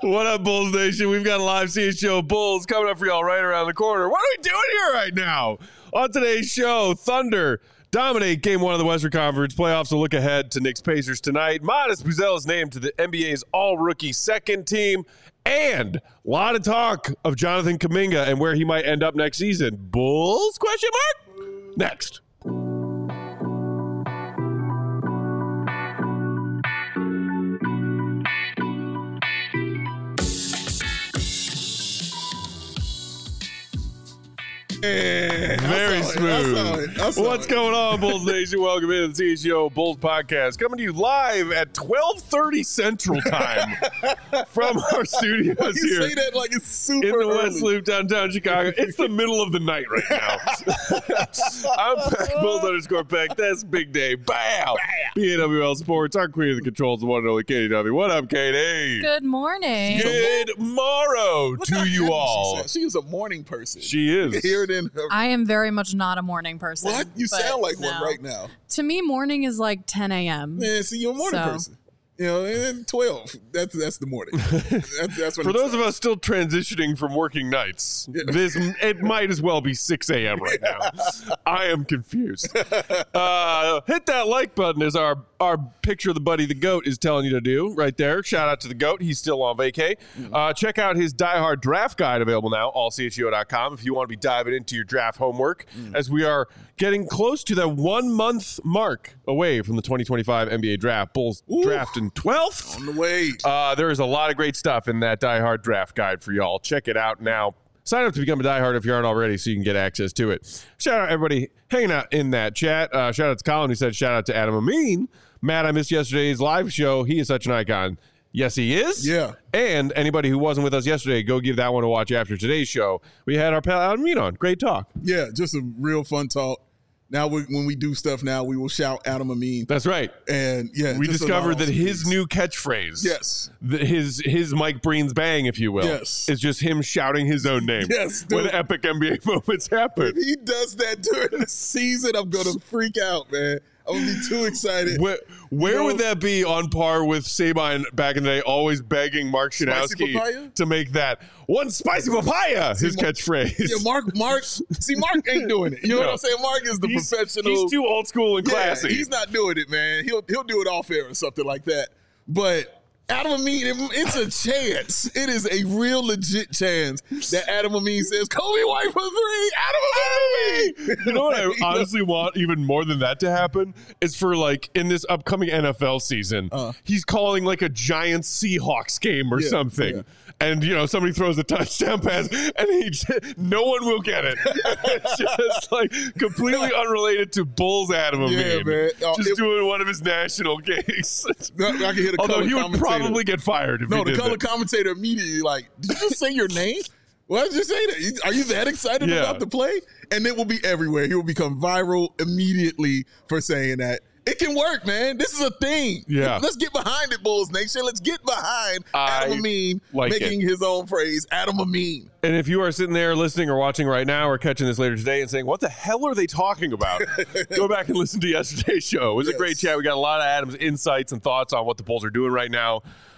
What up, Bulls Nation? We've got a live CHGO Bulls coming up for y'all right around the corner. What are we doing here right now? On today's show, Thunder dominate Game 1 of the Western Conference playoffs. A look ahead to Knicks Pacers tonight. Modest Buzel is named to the NBA's all-rookie second team. And a lot of talk of Jonathan Kuminga and where he might end up next season. Bulls? Question mark? Next. Very smooth. What's going on, Bulls Nation? Welcome in to the CHGO Bulls podcast. Coming to you live at 12:30 Central Time from our studios you here. You say that like it's super in the early. West Loop, downtown Chicago. It's the middle of the night right now. I'm Pack Bulls _Peck. That's Big Day. Bam! BAWL Sports. Our queen of the controls, the one and only Katie W. What up, Katie? Good morning. Good morrow to you all. She is a morning person. She You is. can hear it in her. I am very much not a morning person. What? You but sound like no. one right now. To me, morning is like 10 a.m. Man, see, you're a morning person. You know, and 12. That's the morning. That's when For those of us still transitioning from working nights, it might as well be 6 a.m. right now. I am confused. Hit that like button as our picture of the buddy the GOAT is telling you to do right there. Shout out to the GOAT. He's still on vacay. Check out his Die Hard draft guide available now, allchgo.com, if you want to be diving into your draft homework, as we are getting close to the 1 month mark away from the 2025 NBA draft. Bulls draft in 12th. on the way. There is a lot of great stuff in that Die Hard draft guide for y'all. Check it out now. Sign up to become a Die Hard if you aren't already so you can get access to it. Shout out everybody hanging out in that chat. Shout out to Colin who said shout out to Adam Amin. Matt, I missed yesterday's live show. He is such an icon. Yes, he is. Yeah. And anybody who wasn't with us yesterday, go give that one a watch after today's show. We had our pal Adam Amin on. Great talk. Yeah, just a real fun talk. Now, when we do stuff now, we will shout Adam Amin. That's right. And yeah, We just discovered a lot that of his speeds. new catchphrase, Yes. his Mike Breen's bang, if you will, Yes. is just him shouting his own name. Yes, when dude. epic NBA moments happen. If he does that during the season, I'm going to freak out, man. I'm going to be too excited. Where would that be on par with Sabine back in the day, always begging Mark Spicy papaya? Shanowski to make that one spicy papaya his catchphrase? Yeah, Mark. See, Mark ain't doing it. You know what I'm saying? Mark is the professional. He's too old school and classy. Yeah, he's not doing it, man. He'll do it off air or something like that. But Adam Amin, it's a chance. It is a real legit chance that Adam Amin says, Kobe White for three. Adam Amin. You know what I honestly want even more than that to happen is for like in this upcoming NFL season, he's calling like a giant Seahawks game or something. Yeah. And, you know, somebody throws a touchdown pass and no one will get it. It's just like completely unrelated to Bulls Adam Amin. Yeah, man. Just doing one of his national gigs. I can hear the Although color he would commentator. probably get fired if he No, did the color that. commentator immediately like, did you just say your name? Why did you say that? Are you that excited Yeah. about the play? And it will be everywhere. He will become viral immediately for saying that. It can work, man. This is a thing. Yeah. Let's get behind it, Bulls Nation. Let's get behind Adam Amin making his own phrase, Adam Amin. And if you are sitting there listening or watching right now or catching this later today and saying, what the hell are they talking about? Go back and listen to yesterday's show. It was a great chat. We got a lot of Adam's insights and thoughts on what the Bulls are doing right now.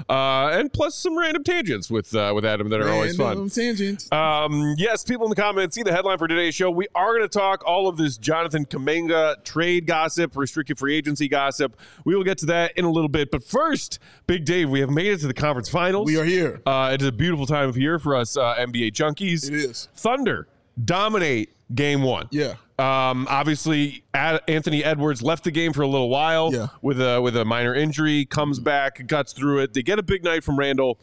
And plus some random tangents with Adam that are always fun. Tangents. Yes, people in the comments, see the headline for today's show. We are going to talk all of this Jonathan Kuminga trade gossip, restricted free agency gossip. We will get to that in a little bit. But first, Big Dave, we have made it to the conference finals. We are here. It is a beautiful time of year for us NBA junkies. It is. Thunder dominate game one. Yeah. Obviously, Anthony Edwards left the game for a little while with a minor injury, comes back, guts through it. They get a big night from Randall.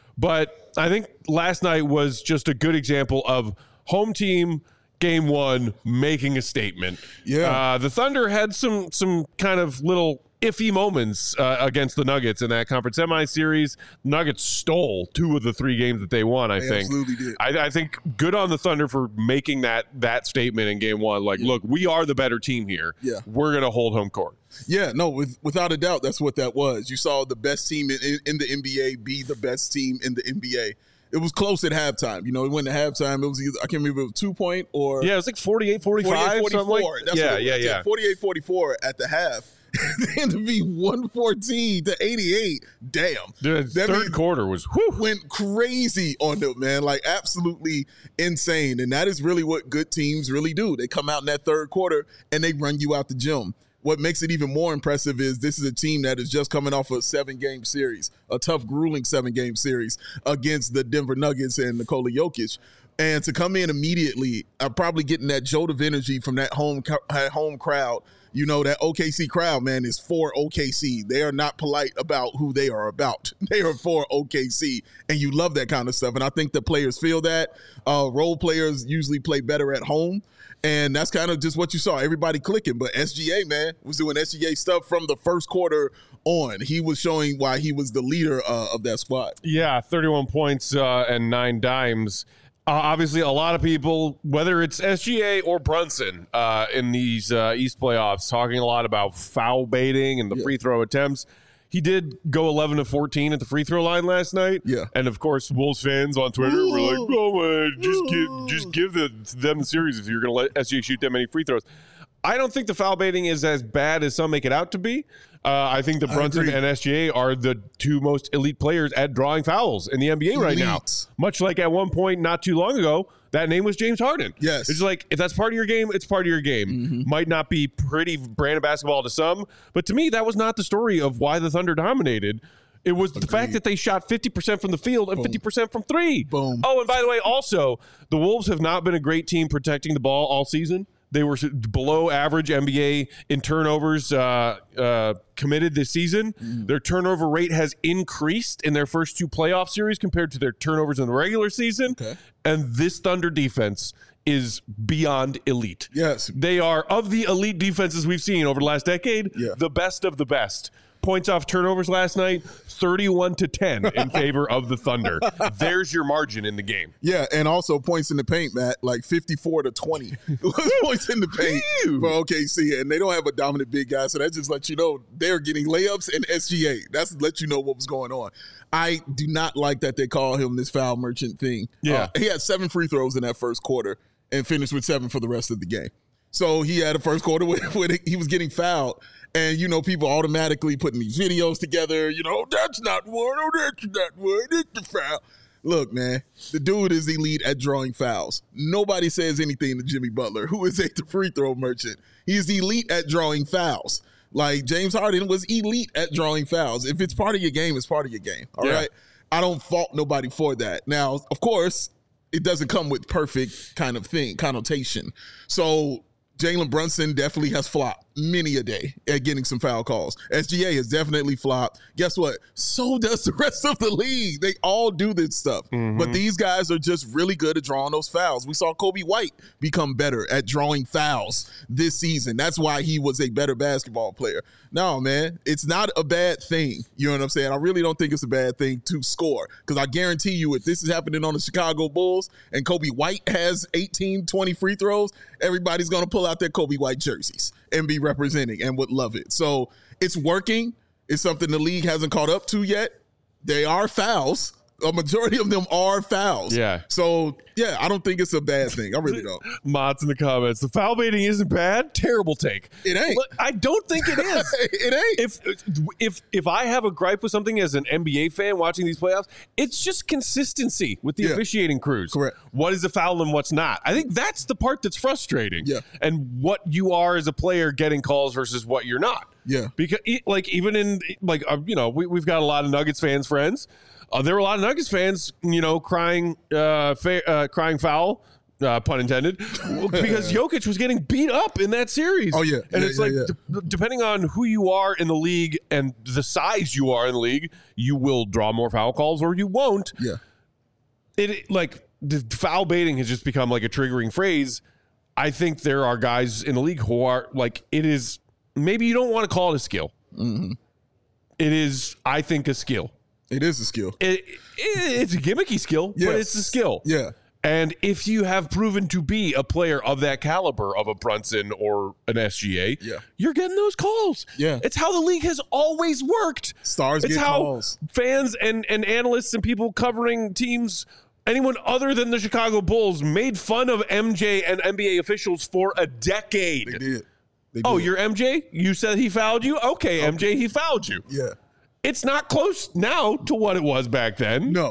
But I think last night was just a good example of home team game one making a statement. Yeah. The Thunder had some kind of little iffy moments against the Nuggets in that conference semi-series. Nuggets stole 2 of the 3 games that they won, I think. Absolutely did. I think good on the Thunder for making that statement in game one. Like, look, we are the better team here. Yeah. We're going to hold home court. Yeah, no, without a doubt, that's what that was. You saw the best team in the NBA be the best team in the NBA. It was close at halftime. You know, it went to halftime. It was either, I can't remember if it was 2 point or. Yeah, it was like 48-45. 48-44. Something like, That's what it was. 48-44 at the half. then to be 114 to 88, damn. The third quarter was went crazy on them, man. Like absolutely insane. And that is really what good teams really do. They come out in that third quarter and they run you out the gym. What makes it even more impressive is this is a team that is just coming off a 7-game series, a tough, grueling 7-game series against the Denver Nuggets and Nikola Jokic. And to come in immediately, probably getting that jolt of energy from that home crowd. You know, that OKC crowd, man, is for OKC. They are not polite about who they are about. They are for OKC, and you love that kind of stuff. And I think the players feel that. Role players usually play better at home, and that's kind of just what you saw. Everybody clicking. But SGA, man, was doing SGA stuff from the first quarter on. He was showing why he was the leader of that squad. Yeah, 31 points and 9 dimes. Obviously, a lot of people, whether it's SGA or Brunson in these East playoffs, talking a lot about foul baiting and the free throw attempts. He did go 11 of 14 at the free throw line last night. Yeah. And, of course, Wolves fans on Twitter were like, oh, man, just give them the series if you're going to let SGA shoot that many free throws. I don't think the foul baiting is as bad as some make it out to be. I think that Brunson and SGA are the two most elite players at drawing fouls in the NBA right now. Much like at one point not too long ago, that name was James Harden. Yes. It's like, if that's part of your game, it's part of your game. Mm-hmm. Might not be pretty brand of basketball to some, but to me, that was not the story of why the Thunder dominated. It was the fact that they shot 50% from the field and 50% from three. Boom. Oh, and by the way, also, the Wolves have not been a great team protecting the ball all season. They were below average NBA in turnovers committed this season. Their turnover rate has increased in their first 2 playoff series compared to their turnovers in the regular season. Okay. And this Thunder defense is beyond elite. Yes. They are, of the elite defenses we've seen over the last decade, the best of the best. Points off turnovers last night, 31-10 in favor of the Thunder. There's your margin in the game. Yeah, and also points in the paint, Matt, like 54-20 points in the paint for OKC, and they don't have a dominant big guy, so that just lets you know they're getting layups and SGA. That's to let you know what was going on. I do not like that they call him this foul merchant thing. Yeah. He had 7 free throws in that first quarter and finished with 7 for the rest of the game. So he had a first quarter where he was getting fouled. And, you know, people automatically putting these videos together. You know, that's not one. Oh, that's not one. It's the foul. Look, man, the dude is elite at drawing fouls. Nobody says anything to Jimmy Butler, who is a free throw merchant. He's elite at drawing fouls. Like, James Harden was elite at drawing fouls. If it's part of your game, it's part of your game. All right? I don't fault nobody for that. Now, of course, it doesn't come with perfect kind of thing, connotation. So Jalen Brunson definitely has flopped many a day at getting some foul calls. SGA has definitely flopped. Guess what? So does the rest of the league. They all do this stuff. But these guys are just really good at drawing those fouls. We saw Kobe White become better at drawing fouls this season. That's why he was a better basketball player. No, man, it's not a bad thing. You know what I'm saying? I really don't think it's a bad thing to score, because I guarantee you if this is happening on the Chicago Bulls and Kobe White has 18, 20 free throws, everybody's going to pull out their Kobe White jerseys and be representing and would love it. So it's working. It's something the league hasn't caught up to yet. They are fouls. A majority of them are fouls. Yeah. So, yeah, I don't think it's a bad thing. I really don't. Mott's in the comments. The foul baiting isn't bad. Terrible take. It ain't. Look, I don't think it is. It ain't. If I have a gripe with something as an NBA fan watching these playoffs, it's just consistency with the officiating crews. Correct. What is a foul and what's not? I think that's the part that's frustrating. Yeah. And what you are as a player getting calls versus what you're not. Yeah. Because even in we've got a lot of Nuggets fans friends. There were a lot of Nuggets fans, crying foul, pun intended, because Jokic was getting beat up in that series. Oh, yeah. And it's depending on who you are in the league and the size you are in the league, you will draw more foul calls or you won't. Yeah. The foul baiting has just become like a triggering phrase. I think there are guys in the league who are it is, maybe you don't want to call it a skill. Mm-hmm. It is, I think, a skill. It is a skill. It's a gimmicky skill, but it's a skill. Yeah. And if you have proven to be a player of that caliber of a Brunson or an SGA, you're getting those calls. Yeah. It's how the league has always worked. Stars it's get how calls. Fans and analysts and people covering teams, anyone other than the Chicago Bulls, made fun of MJ and NBA officials for a decade. They did. Oh, did. you're MJ? You said he fouled you? Okay, MJ, he fouled you. Yeah. It's not close now to what it was back then. No.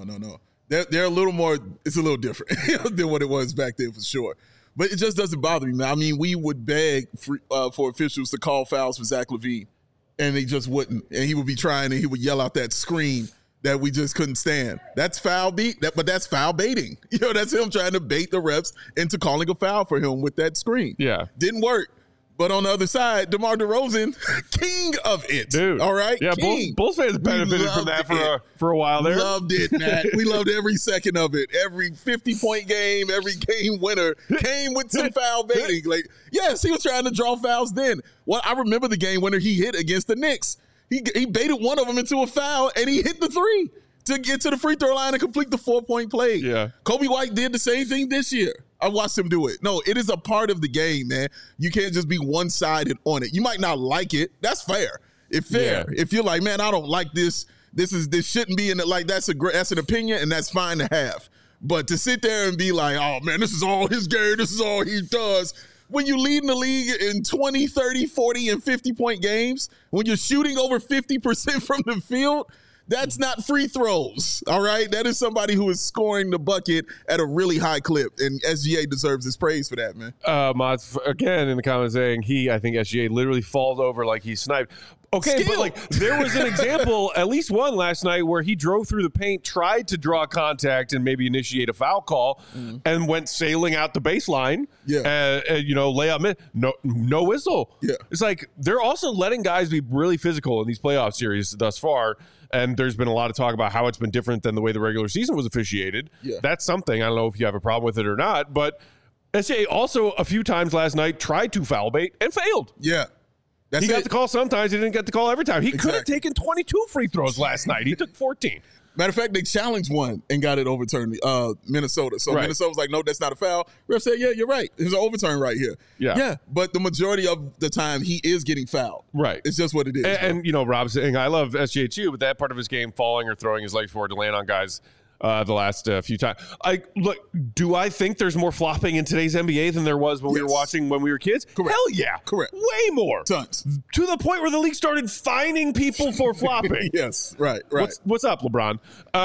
They're a little more. It's a little different than what it was back then for sure. But it just doesn't bother me, man. I mean, we would beg for officials to call fouls for Zach LaVine, and they just wouldn't. And he would be trying, and he would yell out that scream that we just couldn't stand. That's foul beat. But that's foul baiting. That's him trying to bait the refs into calling a foul for him with that screen. Yeah. Didn't work. But on the other side, DeMar DeRozan, king of it. Dude. All right? Yeah, King. Bulls fans benefited from that for a while there. Loved it, Matt. We loved every second of it. Every 50-point game, every game winner came with some foul baiting. Like, yes, he was trying to draw fouls then. Well, I remember the game winner he hit against the Knicks. He baited one of them into a foul, and he hit the three to get to the free throw line and complete the 4-point play. Yeah. Kobe White did the same thing this year. I watched him do it. No, it is a part of the game, man. You can't just be one-sided on it. You might not like it. That's fair. If you're like, man, I don't like this. This shouldn't be in it. Like that's an opinion, and that's fine to have. But to sit there and be like, oh man, this is all his game. This is all he does. When you lead in the league in 20, 30, 40, and 50-point games, when you're shooting over 50% from the field, that's not free throws, all right? That is somebody who is scoring the bucket at a really high clip, and SGA deserves his praise for that, man. Mods, again, in the comments saying I think SGA literally falls over like he sniped. Okay, Skill. but like there was an example, at least one last night, where he drove through the paint, tried to draw contact and maybe initiate a foul call, and went sailing out the baseline. Yeah, lay up, no whistle. Yeah, it's like they're also letting guys be really physical in these playoff series thus far. And there's been a lot of talk about how it's been different than the way the regular season was officiated. Yeah. That's something. I don't know if you have a problem with it or not, but SGA also a few times last night tried to foul bait and failed. Yeah. He got the call sometimes. He didn't get the call every time. He could have taken 22 free throws last night. He took 14. Matter of fact, they challenged one and got it overturned, Minnesota. So Minnesota was like, no, that's not a foul. Ref said, yeah, you're right. There's an overturn right here. Yeah. But the majority of the time, he is getting fouled. Right. It's just what it is. And Rob's saying, I love SGA too, but that part of his game, falling or throwing his legs forward to land on guys the last few times. Do I think there's more flopping in today's NBA than there was when we were watching when we were kids? Correct. Hell yeah. Correct. Way more. Tons. To the point where the league started fining people for flopping. Yes. Right. What's up, LeBron?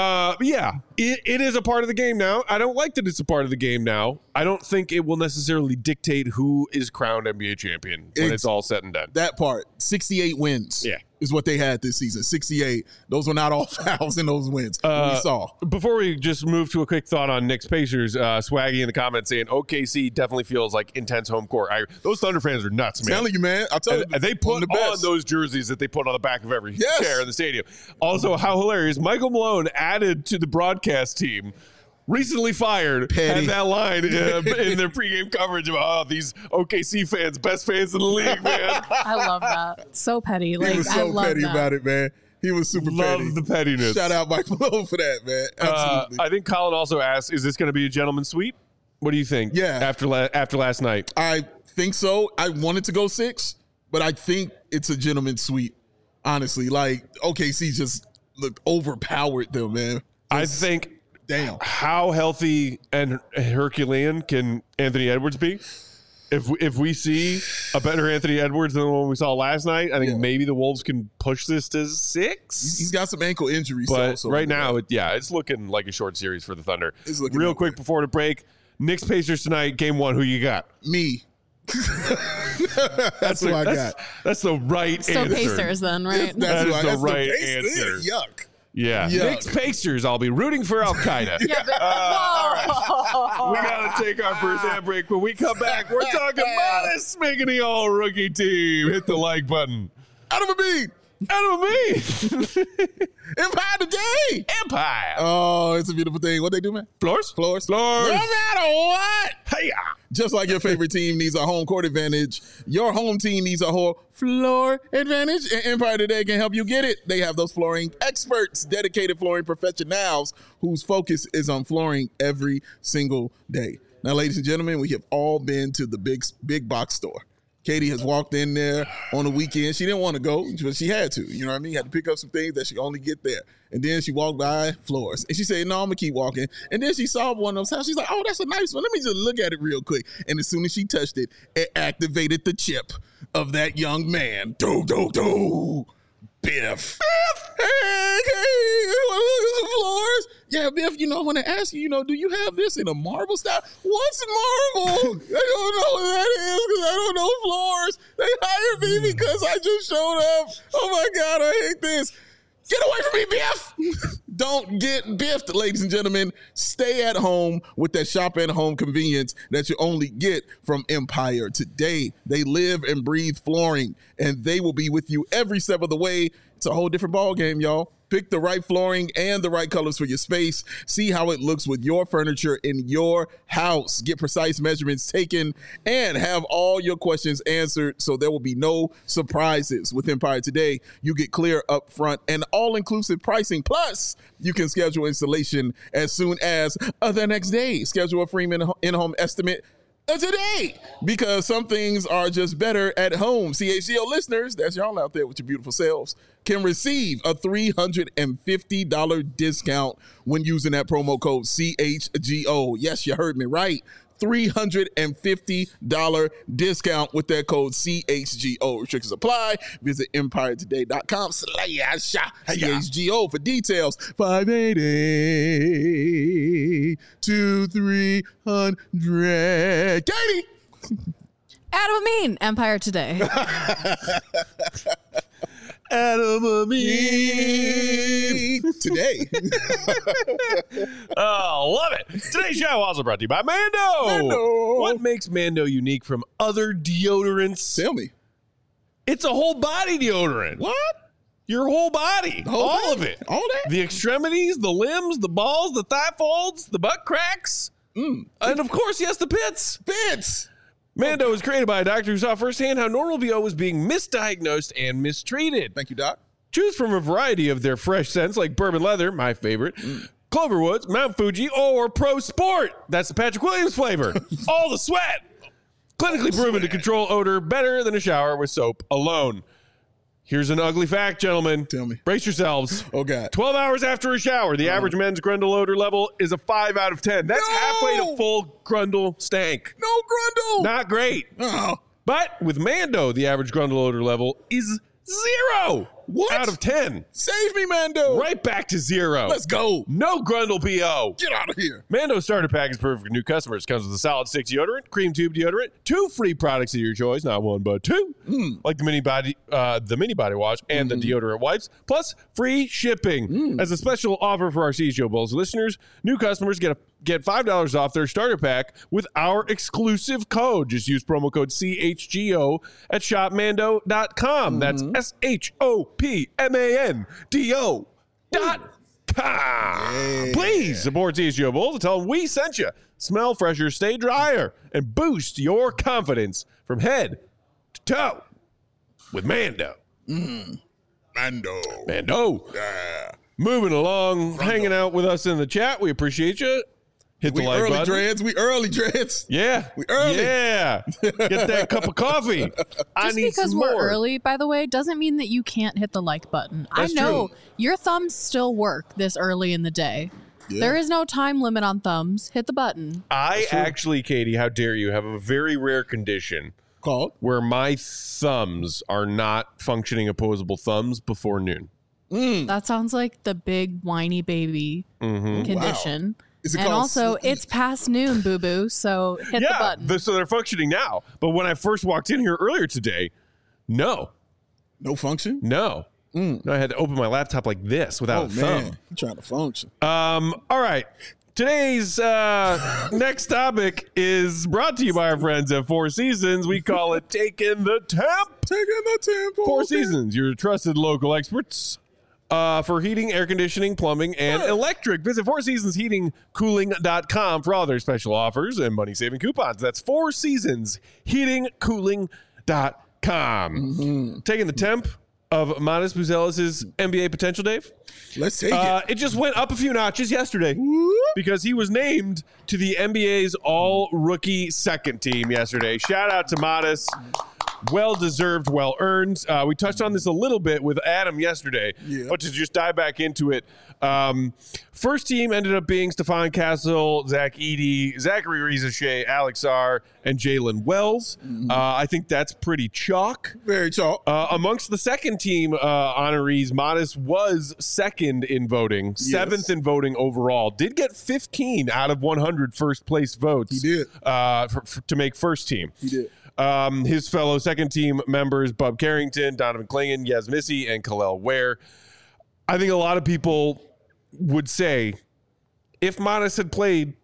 It is a part of the game now. I don't like that it's a part of the game now. I don't think it will necessarily dictate who is crowned NBA champion when it's all said and done. That part, 68 wins. Yeah. Is what they had this season. 68. Those were not all fouls in those wins. We saw. Before we just move to a quick thought on Knicks Pacers, Swaggy in the comments saying OKC definitely feels like intense home court. Those Thunder fans are nuts, man. I'm telling you, man. I'll tell you. And they put on those jerseys that they put on the back of every chair in the stadium. Also, how hilarious. Michael Malone added to the broadcast team. Recently fired, had that line in their pregame coverage about these OKC fans, best fans in the league, man. I love that. So petty. He was so petty about it, man. He was super petty. Love the pettiness. Shout out Mike Malone for that, man. Absolutely. I think Colin also asked, is this going to be a gentleman's sweep? What do you think? Yeah. After last night. I think so. I wanted to go 6, but I think it's a gentleman's sweep, honestly. Like, OKC just overpowered them, man. I think... Damn. How healthy and Herculean can Anthony Edwards be? If we see a better Anthony Edwards than the one we saw last night, I think maybe the Wolves can push this to 6. He's got some ankle injuries. But also, right now, it's looking like a short series for the Thunder. It's looking real quick before the break. Knicks Pacers tonight, game 1. Who you got? Me. That's who I got. That's the right answer. So Pacers then, right? That's the right answer. Yuck. Yeah. Knicks Pacers, I'll be rooting for Al Qaeda. All right. We got to take our first ad break. When we come back, we're talking about this making the all rookie team. Hit the like button. Adam and me. Empire today. Empire. Oh, it's a beautiful thing. What they do, man? Floors. No matter what. Hey. Just like your favorite team needs a home court advantage, your home team needs a whole floor advantage, and Empire Today can help you get it. They have those flooring experts, dedicated flooring professionals whose focus is on flooring every single day. Now, ladies and gentlemen, we have all been to the big box store. Katie has walked in there on the weekend. She didn't want to go, but she had to. You know what I mean? Had to pick up some things that she only get there. And then she walked by floors. And she said, no, I'm going to keep walking. And then she saw one of those houses. She's like, oh, that's a nice one. Let me just look at it real quick. And as soon as she touched it, it activated the chip of that young man. Biff. Hey, some floors. Yeah, Biff, I want to ask you, do you have this in a marble style? What's marble? I don't know what that is because I don't know floors. They hired me because I just showed up. Oh, my God, I hate this. Get away from me, Biff. Don't get biffed, ladies and gentlemen. Stay at home with that shop at home convenience that you only get from Empire Today. They live and breathe flooring, and they will be with you every step of the way. It's a whole different ball game, y'all. Pick the right flooring and the right colors for your space. See how it looks with your furniture in your house. Get precise measurements taken and have all your questions answered so there will be no surprises. With Empire Today, you get clear upfront and all-inclusive pricing. Plus, you can schedule installation as soon as the next day. Schedule a free in-home estimate today, because some things are just better at home. CHGO listeners, that's y'all out there with your beautiful selves, can receive a $350 discount when using that promo code CHGO. Yes, you heard me right. $350 discount with that code CHGO. Restrictions apply. Visit EmpireToday.com/CHGO for details. 588-2300. Katie. Adam Amin, Empire Today. Adam Amin. Today. Oh, love it. Today's show also brought to you by Mando. What makes Mando unique from other deodorants? Tell me. It's a whole body deodorant. What? Your whole body. All of it. All that? The extremities, the limbs, the balls, the thigh folds, the butt cracks. And of course, yes, the pits. Bits. Mando was created by a doctor who saw firsthand how normal BO was being misdiagnosed and mistreated. Thank you, Doc. Choose from a variety of their fresh scents like bourbon leather, my favorite, Cloverwoods, Mount Fuji, or Pro Sport. That's the Patrick Williams flavor. All the sweat. Clinically proven to control odor better than a shower with soap alone. Here's an ugly fact, gentlemen. Tell me. Brace yourselves. Oh, God. 12 hours after a shower, the average men's Grundle odor level is a 5 out of 10. That's halfway to full Grundle stank. No Grundle. Not great. Oh. But with Mando, the average Grundle odor level is 0 out of 10. Save me, Mando. Right back to 0. Let's go. No Grundle BO. Get out of here. Mando starter pack is perfect for new customers. Comes with a solid stick deodorant, cream tube deodorant, 2 free products of your choice, not 1 but 2, like the mini body wash and the deodorant wipes, plus free shipping. As a special offer for our CHGO Bulls listeners, new customers get $5 off their starter pack with our exclusive code. Just use promo code CHGO at shopmando.com. That's SHOPMANDO.com. Please support CHGO Bulls and tell them we sent you. Smell fresher, stay drier, and boost your confidence from head to toe with Mando. Mando. Yeah. Moving along, hanging out with us in the chat. We appreciate you. Hit the like button. We early, Dreads. Yeah. We early. Yeah. Get that cup of coffee. I Just need because some we're more. early, by the way, doesn't mean that you can't hit the like button. That's I know true. your thumbs still work this early in the day. Yeah. There is no time limit on thumbs. Hit the button. I actually, Katie, how dare you, have a very rare condition Called? where my thumbs are not functioning opposable thumbs before noon. That sounds like the big whiny baby condition. Is it And called also, sleep? it's past noon, boo-boo, so hit the button. So they're functioning now. But when I first walked in here earlier today, no. No function? No, I had to open my laptop like this without a thumb. Man. I'm trying to function. All right. Today's next topic is brought to you by our friends at Four Seasons. We call it Taking the Temp. Taking the tempo. Four Seasons, your trusted local experts for heating, air conditioning, plumbing, and electric. Visit fourseasonsheatingcooling.com for all their special offers and money-saving coupons. That's fourseasonsheatingcooling.com. Taking the temp of Manis Buzelis' NBA potential, Dave. Let's take it. It just went up a few notches yesterday because he was named to the NBA's all-rookie second team yesterday. Shout out to Manis. Well-deserved, well-earned. We touched on this a little bit with Adam yesterday, but to just dive back into it, first team ended up being Stephon Castle, Zach Edey, Zachary Riza-Shea, Alex R., and Jalen Wells. I think that's pretty chalk. Very chalk. Amongst the second team honorees, Modest was second in voting, seventh in voting overall. Did get 15 out of 100 first-place votes. He did. To make first team. He did. His fellow second team members, Bub Carrington, Donovan Clingan, Yaz Missy, and Khalil Ware. I think a lot of people would say if Modest had played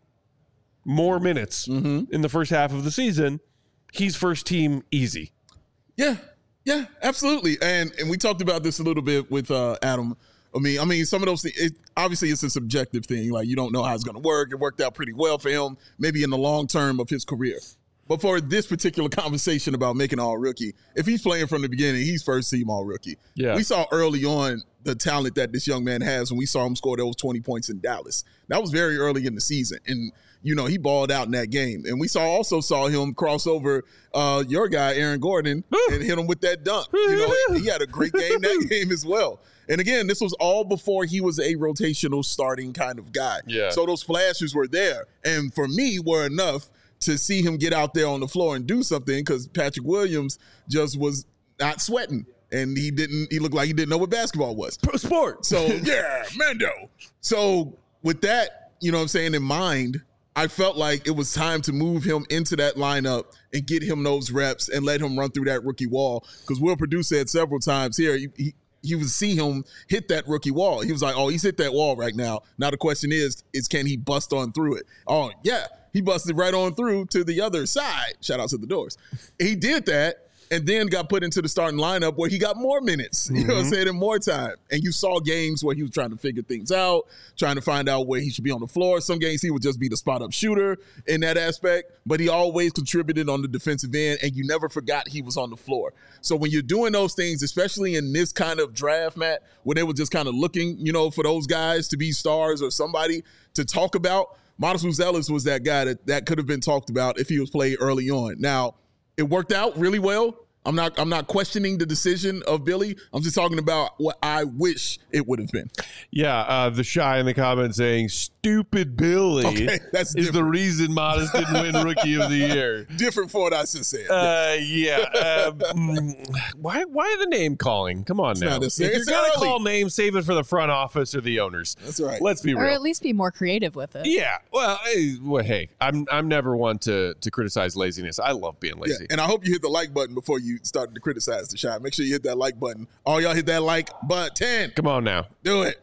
more minutes in the first half of the season, he's first team easy. Yeah, absolutely. And we talked about this a little bit with Adam. I mean, some of those things, obviously it's a subjective thing. Like, you don't know how it's going to work. It worked out pretty well for him, maybe in the long term of his career. But for this particular conversation about making all rookie, if he's playing from the beginning, he's first team all rookie. Yeah. We saw early on the talent that this young man has when we saw him score those 20 points in Dallas. That was very early in the season. And, you know, he balled out in that game. And we also saw him cross over your guy, Aaron Gordon, and hit him with that dunk. You know, he had a great game that game as well. And again, this was all before he was a rotational starting kind of guy. Yeah. So those flashes were there. And for me, were enough to see him get out there on the floor and do something, because Patrick Williams just was not sweating. And he looked like he didn't know what basketball was. Pro sport. So, yeah, Mando. So with that, you know what I'm saying, in mind, I felt like it was time to move him into that lineup and get him those reps and let him run through that rookie wall. Because Will Perdue said several times here, he would see him hit that rookie wall. He was like, oh, he's hit that wall right now. Now the question is can he bust on through it? Oh, yeah. He busted right on through to the other side. Shout out to the Doors. He did that and then got put into the starting lineup where he got more minutes, you know what I'm saying, and more time. And you saw games where he was trying to figure things out, trying to find out where he should be on the floor. Some games he would just be the spot-up shooter in that aspect, but he always contributed on the defensive end, and you never forgot he was on the floor. So when you're doing those things, especially in this kind of draft, Matt, when they were just kind of looking, you know, for those guys to be stars or somebody to talk about, Modest Buzelis was that guy that could have been talked about if he was played early on. Now, it worked out really well. I'm not questioning the decision of Billy. I'm just talking about what I wish it would have been. Yeah, the Shy in the comments saying, stupid Billy that's is the reason Modest didn't win Rookie of the Year. Different for what I just said. Why the name calling? Come on now. If you're It's going to early. call names, save it for the front office or the owners. That's right. Let's be Or real. at least be more creative with it. Yeah. Well, hey, I'm never one to criticize laziness. I love being lazy. And I hope you hit the like button before you started to criticize the shot. Make sure you hit that like button. All y'all hit that like button. Come on now. Do it.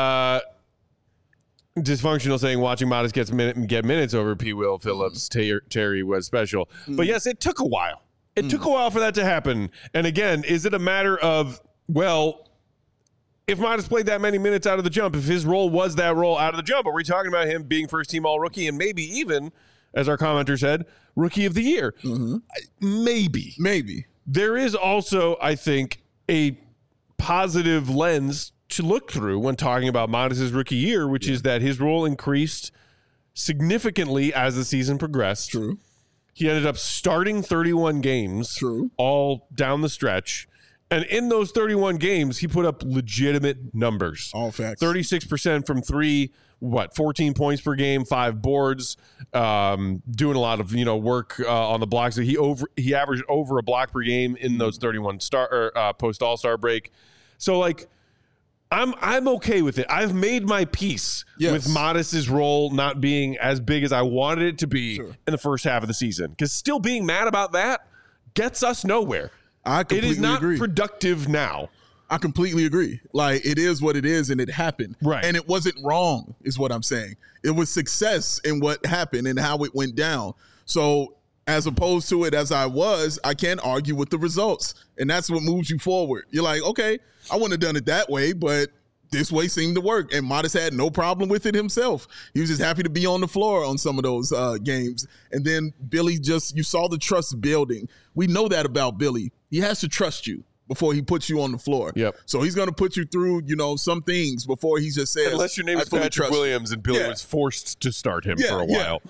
Dysfunctional saying watching Modest get minutes over P. Will Phillips Terry was special. But yes, it took a while. It took a while for that to happen. And again, is it a matter of, well, if Modest played that many minutes out of the jump, if his role was that role out of the jump, are we talking about him being first team all rookie and maybe even, as our commenter said, Rookie of the Year? Maybe. There is also, I think, a positive lens to look through when talking about Modest's rookie year, which is that his role increased significantly as the season progressed. True. He ended up starting 31 games. True. All down the stretch. And in those 31 games, he put up legitimate numbers. All facts. 36% from three, 14 points per game, 5 boards, doing a lot of work on the blocks. So he averaged over a block per game in those 31 post All-Star break. So I'm okay with it. I've made my peace with Modest's role not being as big as I wanted it to be in the first half of the season. Because still being mad about that gets us nowhere. I completely It is not agree. productive now. I completely agree. Like, it is what it is, and it happened. Right. And it wasn't wrong, is what I'm saying. It was success in what happened and how it went down. So as opposed to it as I can't argue with the results. And that's what moves you forward. You're like, okay, I wouldn't have done it that way, but this way seemed to work. And Modest had no problem with it himself. He was just happy to be on the floor on some of those games. And then Billy you saw the trust building. We know that about Billy. He has to trust you. before he puts you on the floor. Yep. So he's going to put you through, some things before he just says, unless your name I is fully Patrick trust you. Williams and Billy was forced to start him for a while.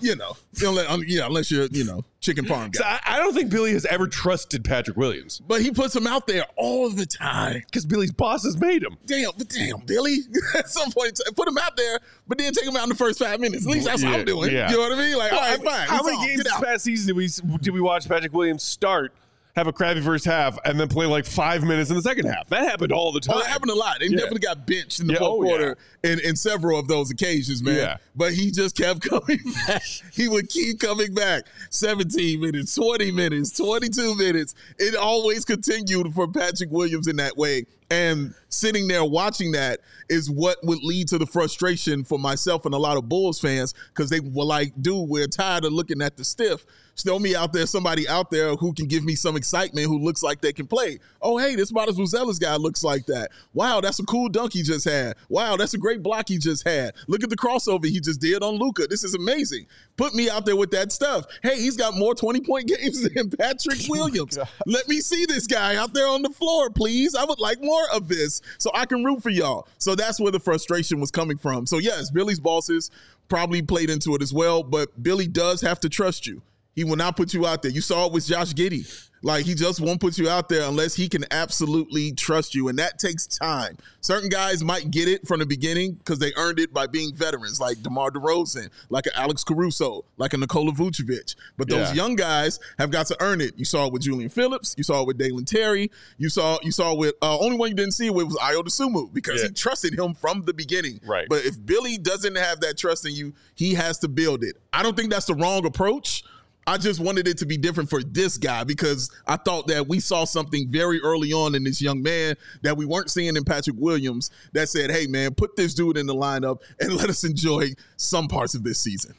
Unless you're, chicken parm guy. So I don't think Billy has ever trusted Patrick Williams But he puts him out there all the time. because Billy's bosses made him. Damn, Billy. At some point, put him out there, but then take him out in the first 5 minutes. At least that's what I'm doing. Yeah. You know what I mean? Like, all right, fine. How many games this past season did we watch Patrick Williams start, have a crappy first half, and then play like 5 minutes in the second half? That happened all the time. Oh, that happened a lot. He definitely got benched in the fourth quarter in several of those occasions, man. Yeah. But he just kept coming back. He would keep coming back. 17 minutes, 20 minutes, 22 minutes. It always continued for Patrick Williams in that way. And sitting there watching that is what would lead to the frustration for myself and a lot of Bulls fans, because they were like, dude, we're tired of looking at the stiff. Show me out there, somebody out there who can give me some excitement, who looks like they can play. Oh, hey, this Matas Buzelis guy looks like that. Wow, that's a cool dunk he just had. Wow, that's a great block he just had. Look at the crossover he just did on Luka. This is amazing. Put me out there with that stuff. Hey, he's got more 20-point games than Patrick Williams. Let me see this guy out there on the floor, please. I would like more of this so I can root for y'all. So that's where the frustration was coming from. So, yes, Billy's bosses probably played into it as well, but Billy does have to trust you. He will not put you out there. You saw it with Josh Giddey. Like, he just won't put you out there unless he can absolutely trust you, and that takes time. Certain guys might get it from the beginning because they earned it by being veterans, like DeMar DeRozan, like an Alex Caruso, like a Nikola Vucevic. But those young guys have got to earn it. You saw it with Julian Phillips. You saw it with Dalen Terry. You saw with only one you didn't see it with was Ayo Dosunmu because he trusted him from the beginning. Right. But if Billy doesn't have that trust in you, he has to build it. I don't think that's the wrong approach. I just wanted it to be different for this guy because I thought that we saw something very early on in this young man that we weren't seeing in Patrick Williams that said, hey, man, put this dude in the lineup and let us enjoy some parts of this season.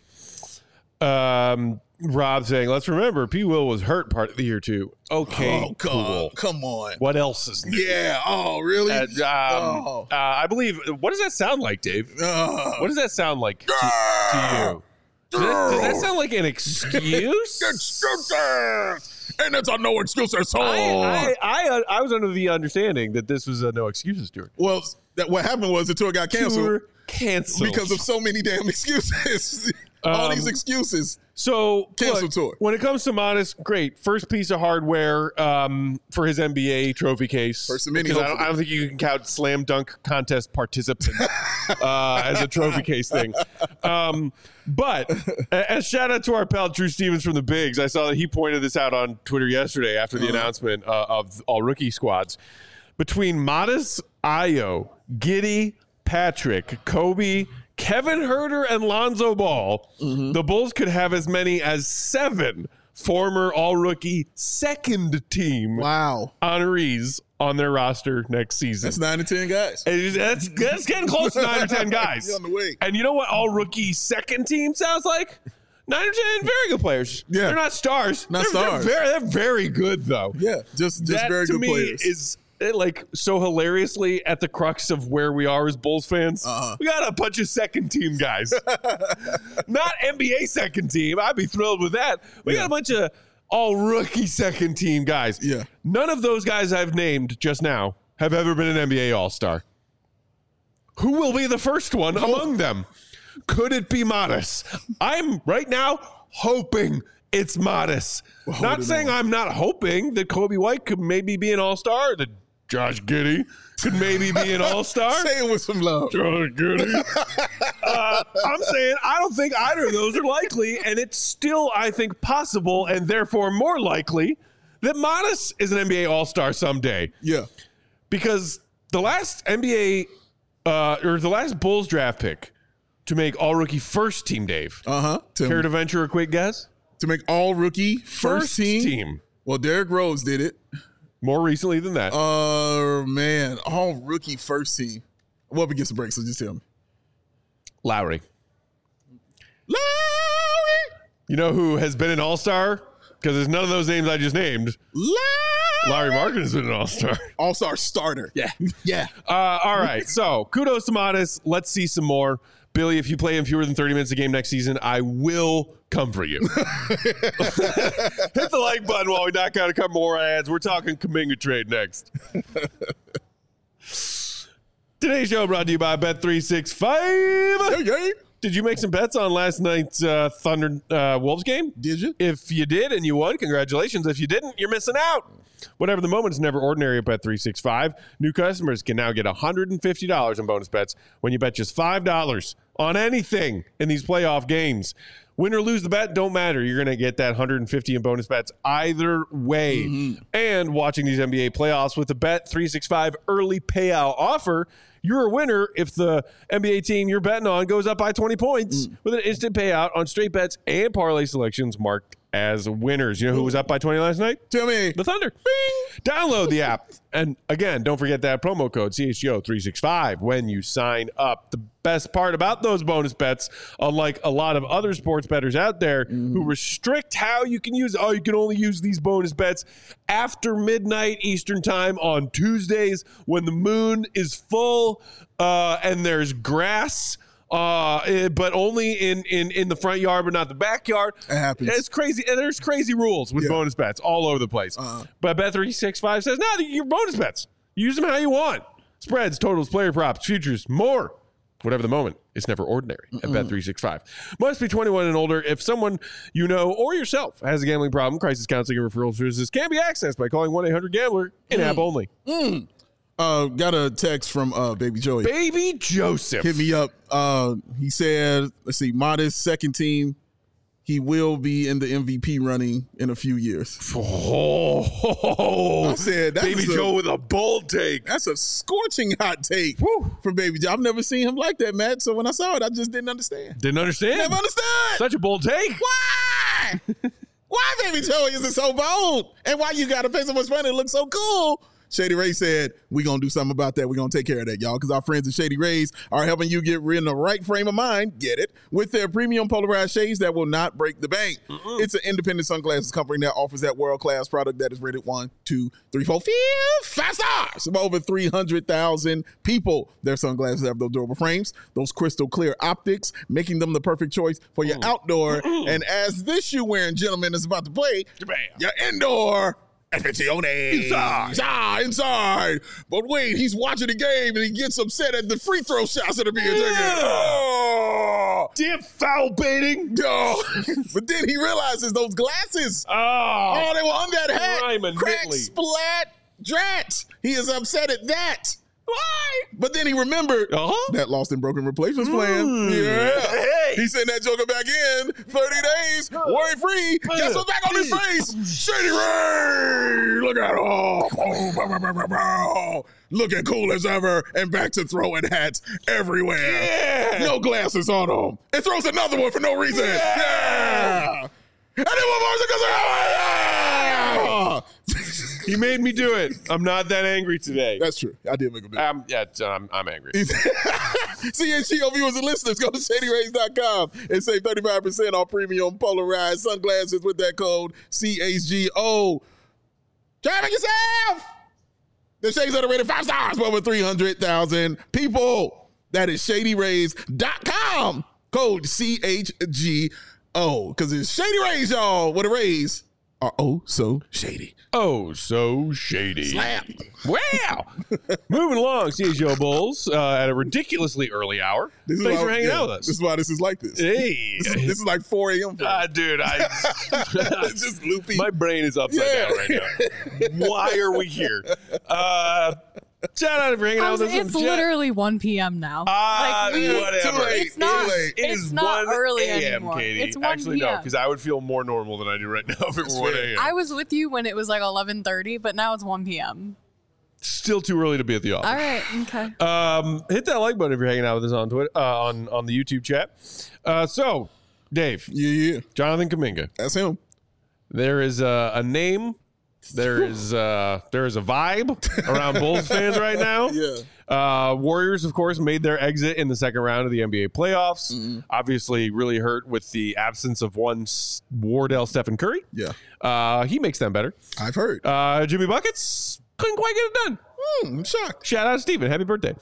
Rob saying, let's remember, P. Will was hurt part of the year, too. Okay, Oh, God. cool. Come on. What else is new? Yeah. Oh, really? I believe, what does that sound like, Dave? What does that sound like to you? Does that sound like an excuse? Excuses! And it's a no excuses song. I was under the understanding that this was a no excuses tour. Well, what happened was the tour got canceled. Canceled. Because of so many damn excuses. All these excuses. So, Cancel tour. When it comes to Modest, great. First piece of hardware for his NBA trophy case. First of many, because I don't think you can count slam dunk contest participants as a trophy case thing. But as shout out to our pal Drew Stevens from the Bigs, I saw that he pointed this out on Twitter yesterday after the announcement of all rookie squads. Between Modest, Ayo, Giddey, Patrick, Kobe, Kevin Huerter, and Lonzo Ball, the Bulls could have as many as 7 former all-rookie second-team honorees on their roster next season. That's 9 to 10 guys. That's getting close to 9 or 10 guys. On the way. And you know what all-rookie second team sounds like? 9 or 10 very good players. Yeah. They're not stars. Not stars. They're very good, though. Yeah, just That, very to good me, players. is like so hilariously at the crux of where we are as Bulls fans. We got a bunch of second team guys. Not NBA second team. I'd be thrilled with that. We got a bunch of all rookie second team guys. Yeah. None of those guys I've named just now have ever been an NBA All-Star. Who will be the first one among them? Could it be Modest? I'm right now hoping it's Modest. Not saying I'm not hoping that Kobe White could maybe be an All-Star, that Josh Giddey could maybe be an All-Star. Say it with some love. Josh Giddey. I'm saying I don't think either of those are likely, and it's still, I think, possible and therefore more likely that Modest is an NBA All-Star someday. Yeah. Because the last NBA or the last Bulls draft pick to make all-rookie first team, Dave. Care to venture a quick guess? To make all rookie first team. Well, Derrick Rose did it. More recently than that. Man, all rookie first team. Well, up against the break, so just tell me. Lowry. You know who has been an all-star? Because there's none of those names I just named. Larry Markin has been an all-star. All-star starter. Yeah. Yeah. All right. So kudos to Modest. Let's see some more. Billy, if you play in fewer than 30 minutes a game next season, I will come for you. Hit the like button while we knock out a couple more ads. We're talking Kuminga trade next. Today's show brought to you by Bet365. Hey. Did you make some bets on last night's Thunder Wolves game? Did you? If you did and you won, congratulations. If you didn't, you're missing out. Whatever the moment is never ordinary at Bet365. New customers can now get $150 in bonus bets when you bet just $5 on anything in these playoff games. Win or lose the bet, don't matter. You're going to get that $150 in bonus bets either way. Mm-hmm. And watching these NBA playoffs with the Bet365 early payout offer, you're a winner if the NBA team you're betting on goes up by 20 points with an instant payout on straight bets and parlay selections marked as winners. You know who was up by 20 last night? Tell me. The Thunder. Bing! Download the app. And again, don't forget that promo code CHGO365 when you sign up. The best part about those bonus bets, unlike a lot of other sports bettors out there who restrict how you can use, you can only use these bonus bets after midnight Eastern time on Tuesdays when the moon is full and there's grass. But only in the front yard, but not the backyard. It happens. It's crazy. And there's crazy rules with bonus bets all over the place. But Bet365 says, no, your bonus bets. Use them how you want. Spreads, totals, player props, futures, more. Whatever the moment, it's never ordinary at Bet365. Must be 21 and older. If someone you know or yourself has a gambling problem, crisis counseling and referral services can be accessed by calling 1-800-GAMBLER in-app only. Got a text from Baby Joey. Baby Joseph. Hit me up. He said, let's see, modest second team. He will be in the MVP running in a few years. I said, Baby Joe with a bold take. That's a scorching hot take from Baby Joe. I've never seen him like that, Matt. So when I saw it, I just didn't understand. Didn't understand? Never understood. Such a bold take. Why? Why, Baby Joey, is it so bold? And why you got to pay so much money? It looks so cool. Shady Rays said, we're going to do something about that. We're going to take care of that, y'all, because our friends at Shady Rays are helping you get in the right frame of mind, get it, with their premium polarized shades that will not break the bank. It's an independent sunglasses company that offers that world-class product that is rated 1, 2, 3, 4, 5 stars from over 300,000 people. Their sunglasses have those durable frames, those crystal clear optics, making them the perfect choice for your outdoor. And as this shoe-wearing gentleman is about to play, your indoor Inside. But wait, he's watching the game and he gets upset at the free throw shots that are being taken. Damn foul baiting. But then he realizes those glasses. They were on that hat. Crack, splat, drat. He is upset at that. Why? But then he remembered that Lost and Broken Replacements plan. Hey. He sent that joker back in. 30 days, worry free. Guess what's back on his face? Shady Ray. Look at looking cool as ever and back to throwing hats everywhere. Yeah. No glasses on him. And throws another one for no reason. Yeah. And then one more because he made me do it. I'm not that angry today. That's true. I did make him do it. I'm angry. CHGO viewers and listeners, go to ShadyRays.com and save 35% on premium polarized sunglasses with that code CHGO. Try it yourself. The shades are rated 5 stars for over 300,000 people. That is ShadyRays.com. Code CHGO. Because it's Shady Rays, y'all. What a raise are oh so shady. Oh, so shady. Slap. Wow. Moving along, CHGO Bulls at a ridiculously early hour. Thanks for hanging out with us. This is why this is like this. Hey. This is like 4 a.m. Dude, it's just loopy. My brain is upside down right now. Why are we here? Shout out for hanging out with us. It's literally 1 p.m. now. Whatever. It's not. It's not early anymore. Katie. It's 1 Actually, p.m. no, because I would feel more normal than I do right now if it were 1 a.m. I was with you when it was like 11:30, but now it's 1 p.m. Still too early to be at the office. All right. Okay. Hit that like button if you're hanging out with us on Twitter, on the YouTube chat. So, Dave. Yeah. Jonathan Kuminga. That's him. There is a name. There is a vibe around Bulls fans right now. Yeah. Warriors, of course, made their exit in the second round of the NBA playoffs. Obviously, really hurt with the absence of one Wardell Stephen Curry. Yeah. He makes them better. I've heard. Jimmy Buckets couldn't quite get it done. I'm shocked. Shout out to Steven. Happy birthday.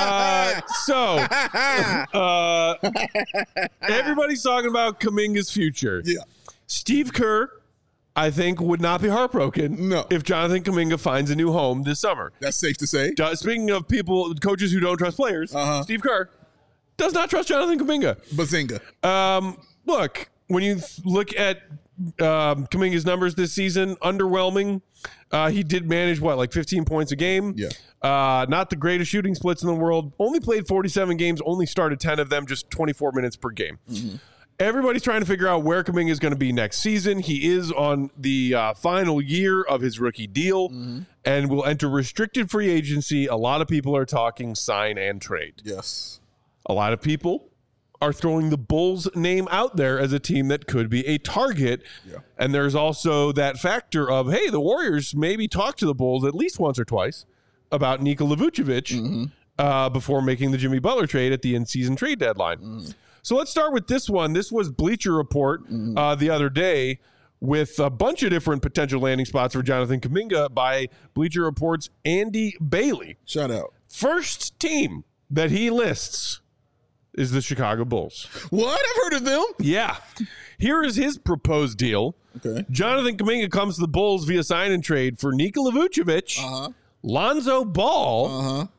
Everybody's talking about Kuminga's future. Yeah. Steve Kerr, I think, would not be heartbroken if Jonathan Kuminga finds a new home this summer. That's safe to say. Speaking of coaches who don't trust players, Steve Kerr does not trust Jonathan Kuminga. Bazinga. Look, when you look at Kuminga's numbers this season, underwhelming. He did manage, 15 points a game? Yeah. Not the greatest shooting splits in the world. Only played 47 games, only started 10 of them, just 24 minutes per game. Mm-hmm. Everybody's trying to figure out where Kuminga is going to be next season. He is on the final year of his rookie deal and will enter restricted free agency. A lot of people are talking sign and trade. Yes. A lot of people are throwing the Bulls name out there as a team that could be a target. Yeah. And there's also that factor of, hey, the Warriors maybe talk to the Bulls at least once or twice about Nikola Vucevic before making the Jimmy Butler trade at the in-season trade deadline. So let's start with this one. This was Bleacher Report the other day with a bunch of different potential landing spots for Jonathan Kuminga by Bleacher Report's Andy Bailey. Shout out. First team that he lists is the Chicago Bulls. What? I've heard of them. Yeah. Here is his proposed deal. Okay. Jonathan Kuminga comes to the Bulls via sign and trade for Nikola Vucevic, Lonzo Ball,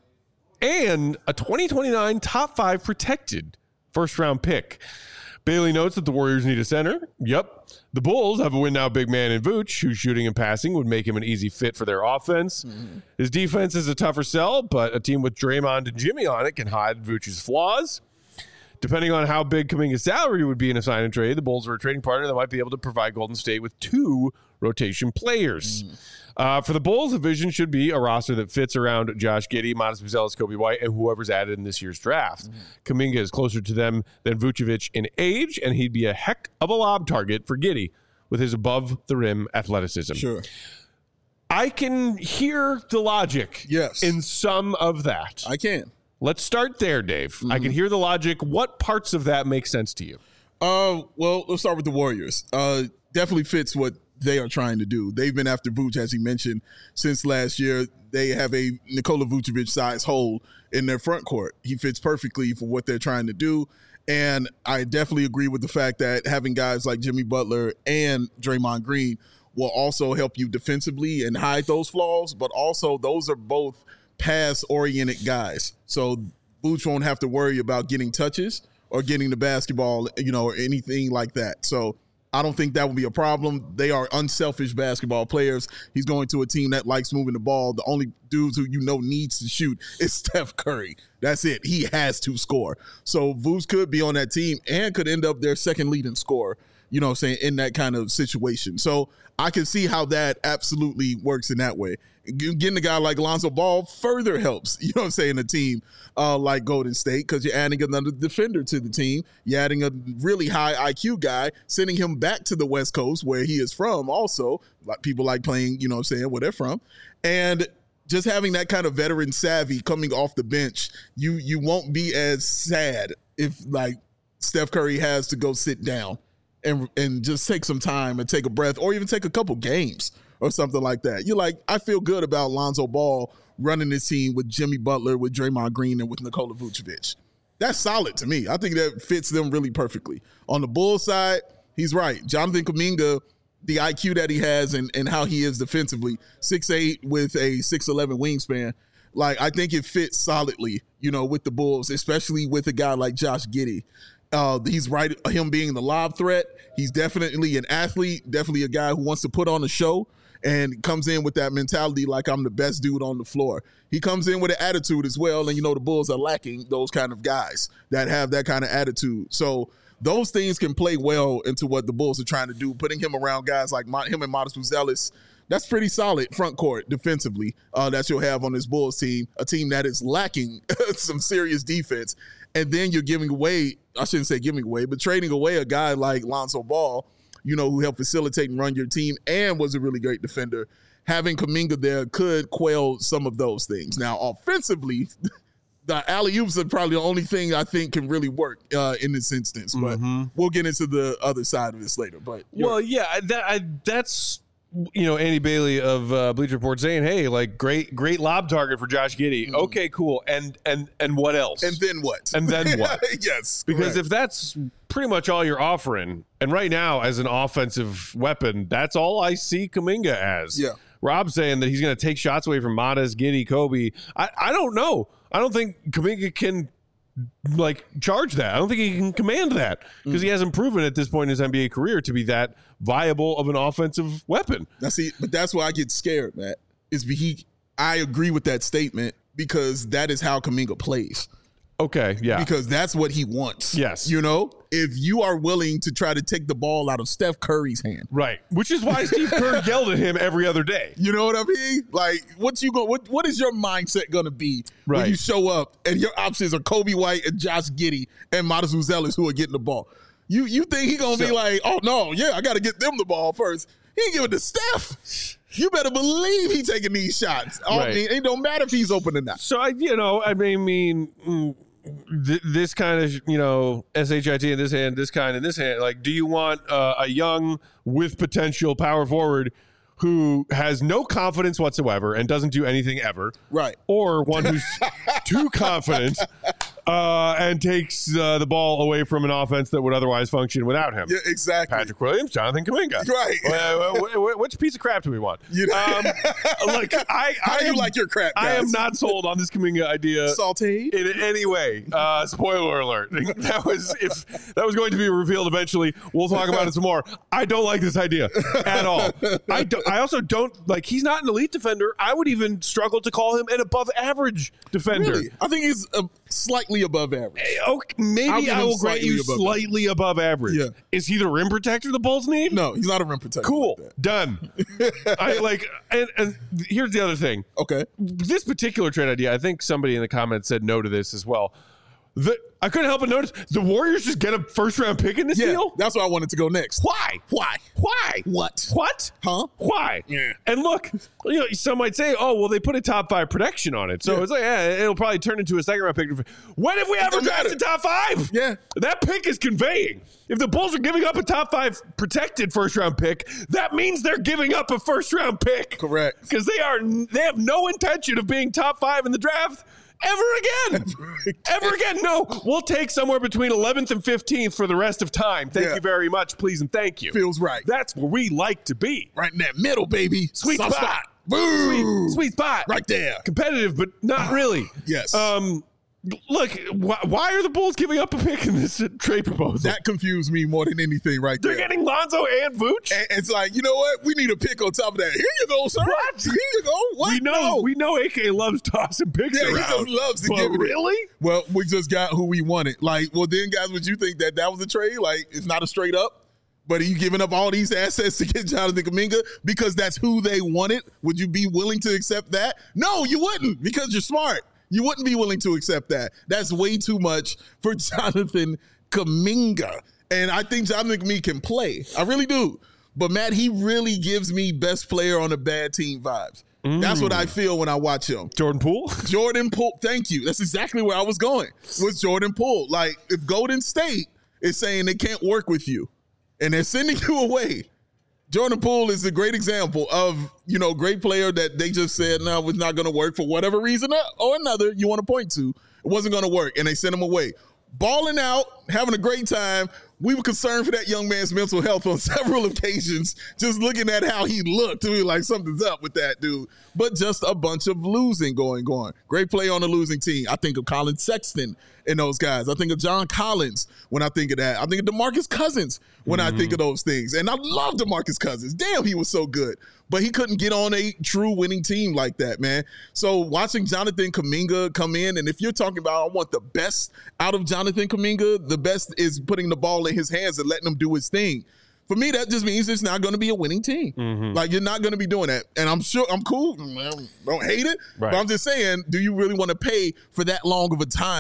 and a 2029 top 5 protected first-round pick. Bailey notes that the Warriors need a center. Yep. The Bulls have a win-now big man in Vooch, whose shooting and passing would make him an easy fit for their offense. His defense is a tougher sell, but a team with Draymond and Jimmy on it can hide Vooch's flaws. Depending on how big Kuminga's salary would be in a sign and trade, the Bulls are a trading partner that might be able to provide Golden State with 2 rotation players. For the Bulls, the vision should be a roster that fits around Josh Giddey, Montes Buzelis, Kobe White, and whoever's added in this year's draft. Kuminga is closer to them than Vucevic in age, and he'd be a heck of a lob target for Giddey with his above-the-rim athleticism. Sure. I can hear the logic in some of that. I can. Let's start there, Dave. I can hear the logic. What parts of that make sense to you? Well, let's start with the Warriors. Definitely fits what they are trying to do. They've been after Vooch, as he mentioned, since last year. They have a Nikola Vucevic-sized hole in their front court. He fits perfectly for what they're trying to do. And I definitely agree with the fact that having guys like Jimmy Butler and Draymond Green will also help you defensively and hide those flaws, but also those are both pass-oriented guys. So Vooch won't have to worry about getting touches or getting the basketball, or anything like that. So I don't think that will be a problem. They are unselfish basketball players. He's going to a team that likes moving the ball. The only dudes who needs to shoot is Steph Curry. That's it. He has to score. So Vooch could be on that team and could end up their second leading scorer, in that kind of situation. So I can see how that absolutely works in that way. Getting a guy like Lonzo Ball further helps, a team like Golden State, because you're adding another defender to the team. You're adding a really high IQ guy, sending him back to the West Coast where he is from also. Like people like playing, where they're from. And just having that kind of veteran savvy coming off the bench, you won't be as sad if Steph Curry has to go sit down and just take some time and take a breath, or even take a couple games or something like that. You're like, I feel good about Lonzo Ball running this team with Jimmy Butler, with Draymond Green, and with Nikola Vucevic. That's solid to me. I think that fits them really perfectly. On the Bulls side, he's right. Jonathan Kuminga, the IQ that he has and how he is defensively, 6'8" with a 6'11" wingspan, I think it fits solidly, with the Bulls, especially with a guy like Josh Giddey. He's right, him being the lob threat. He's definitely an athlete, definitely a guy who wants to put on a show and comes in with that mentality like I'm the best dude on the floor. He comes in with an attitude as well, and the Bulls are lacking those kind of guys that have that kind of attitude. So those things can play well into what the Bulls are trying to do. Putting him around guys like him and Montes Buzelis, that's pretty solid front court defensively that you'll have on this Bulls team, a team that is lacking some serious defense. And then you're giving away, I shouldn't say giving away, but trading away a guy like Lonzo Ball, who helped facilitate and run your team and was a really great defender. Having Kuminga there could quell some of those things. Now, offensively, the alley-oops are probably the only thing I think can really work in this instance. But we'll get into the other side of this later. But that's Andy Bailey of Bleacher Report saying, "Hey, like great lob target for Josh Giddey." Okay, cool. And what else? And then what? And then what? Yes, because correct. if that's pretty much all you're offering, and right now as an offensive weapon, that's all I see Kuminga as. Yeah. Rob saying that he's going to take shots away from Matas, Giddey, Kobe. I don't know. I don't think Kuminga can charge that. I don't think he can command that because he hasn't proven at this point in his NBA career to be that viable of an offensive weapon. But that's why I get scared, Matt. I agree with that statement because that is how Kuminga plays. Okay, yeah. Because that's what he wants. Yes. If you are willing to try to take the ball out of Steph Curry's hand. Right. Which is why Steve Kerr yelled at him every other day. You know what I mean? Like, what is your mindset going to be when you show up and your options are Kobe White and Josh Giddey and Matas Uzelis who are getting the ball? You think he's going to be like, oh, no, yeah, I got to get them the ball first. He ain't giving it to Steph. You better believe he's taking these shots. Right. It don't matter if he's open or not. So, this kind of, SHIT in this hand, this kind in this hand. Like, do you want a young with potential power forward who has no confidence whatsoever and doesn't do anything ever? Right. Or one who's too confident and takes the ball away from an offense that would otherwise function without him? Yeah, exactly. Patrick Williams, Jonathan Kuminga. Right. Which piece of crap do we want? How do you like your crap, guys? I am not sold on this Kuminga idea. Sauteed? In any way. Spoiler alert. That was going to be revealed eventually. We'll talk about it some more. I don't like this idea at all. I also don't he's not an elite defender. I would even struggle to call him an above average defender. Really? I think he's slightly above average. Okay, maybe I will grant you slightly above average. Yeah. Is he the rim protector the Bulls need? No, he's not a rim protector. Cool. Like that. Done. And here's the other thing. Okay. This particular trade idea, I think somebody in the comments said no to this as well. I couldn't help but notice the Warriors just get a first-round pick in this deal? That's why I wanted to go next. Why? What? Huh? Why? Yeah. And look, some might say, oh, well, they put a top 5 protection on it. So it's like, it'll probably turn into a second-round pick. When have we ever drafted top 5? Yeah. That pick is conveying. If the Bulls are giving up a top 5 protected first-round pick, that means they're giving up a first-round pick. Correct. Because they have no intention of being top 5 in the draft ever again. No, we'll take somewhere between 11th and 15th for the rest of time. Thank you very much, please, and thank you. Feels right. That's where we like to be. Right in that middle, baby. Sweet spot. Boom. Sweet spot. Right there. Competitive, but not really. Yes. Look, why are the Bulls giving up a pick in this trade proposal? That confused me more than anything right there. They're getting Lonzo and Vooch? And it's like, you know what? We need a pick on top of that. Here you go, sir. What? Here you go. What? We know AK loves tossing picks around. He just loves to give it. Really? Well, we just got who we wanted. Then, guys, would you think that was a trade? It's not a straight up? But are you giving up all these assets to get Jonathan Kuminga because that's who they wanted? Would you be willing to accept that? No, you wouldn't because you're smart. You wouldn't be willing to accept that. That's way too much for Jonathan Kuminga. And I think Jonathan Kuminga can play. I really do. But, Matt, he really gives me best player on a bad team vibes. That's what I feel when I watch him. Jordan Poole? Jordan Poole. Thank you. That's exactly where I was going with Jordan Poole. If Golden State is saying they can't work with you and they're sending you away, Jordan Poole is a great example of, great player that they just said, no, it's not going to work for whatever reason or another you want to point to. It wasn't going to work, and they sent him away. Balling out, having a great time. We were concerned for that young man's mental health on several occasions, just looking at how he looked. To me, like something's up with that dude. But just a bunch of losing going on. Great play on the losing team. I think of Colin Sexton and those guys. I think of John Collins when I think of that. I think of DeMarcus Cousins when I think of those things. And I love DeMarcus Cousins. Damn, he was so good. But he couldn't get on a true winning team like that, man. So watching Jonathan Kuminga come in, and if you're talking about I want the best out of Jonathan Kuminga, the best is putting the ball in his hands and letting him do his thing. For me, that just means it's not going to be a winning team. You're not going to be doing that. And I'm sure I'm cool. I don't hate it. Right. But I'm just saying, do you really want to pay for that long of a time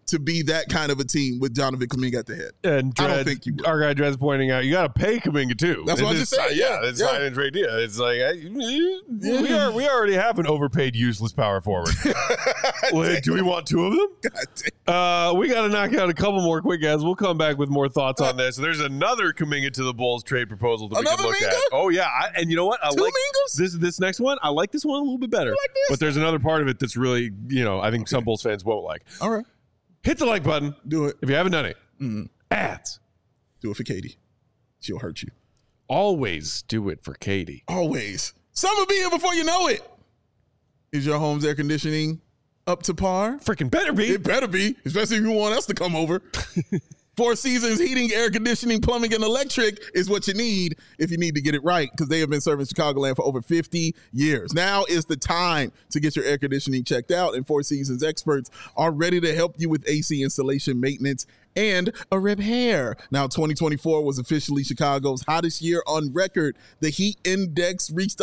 to be that kind of a team with Jonathan Kuminga at the head. And I don't think you will. Our guy Dred's pointing out, you got to pay Kuminga too. That's what I just said. It's not a trade deal. It's like we already have an overpaid, useless power forward. Wait, do we want two of them? We got to knock out a couple more quick ads. We'll come back with more thoughts on this. There's another Kuminga to the Bulls trade proposal that we can look at. Oh yeah, and you know what? I like this next one. I like this one a little bit better. But there's another part of it that's really, I think some Bulls fans won't like. All right. Hit the like button. Do it. If you haven't done it. Ads. Do it for Katie. She'll hurt you. Always do it for Katie. Always. Summer be here before you know it. Is your home's air conditioning up to par? Freaking better be. It better be, especially if you want us to come over. Four Seasons Heating, Air Conditioning, Plumbing, and Electric is what you need if you need to get it right, because they have been serving Chicagoland for over 50 years. Now is the time to get your air conditioning checked out, and Four Seasons experts are ready to help you with AC installation, maintenance, and a repair. Now, 2024 was officially Chicago's hottest year on record. The heat index reached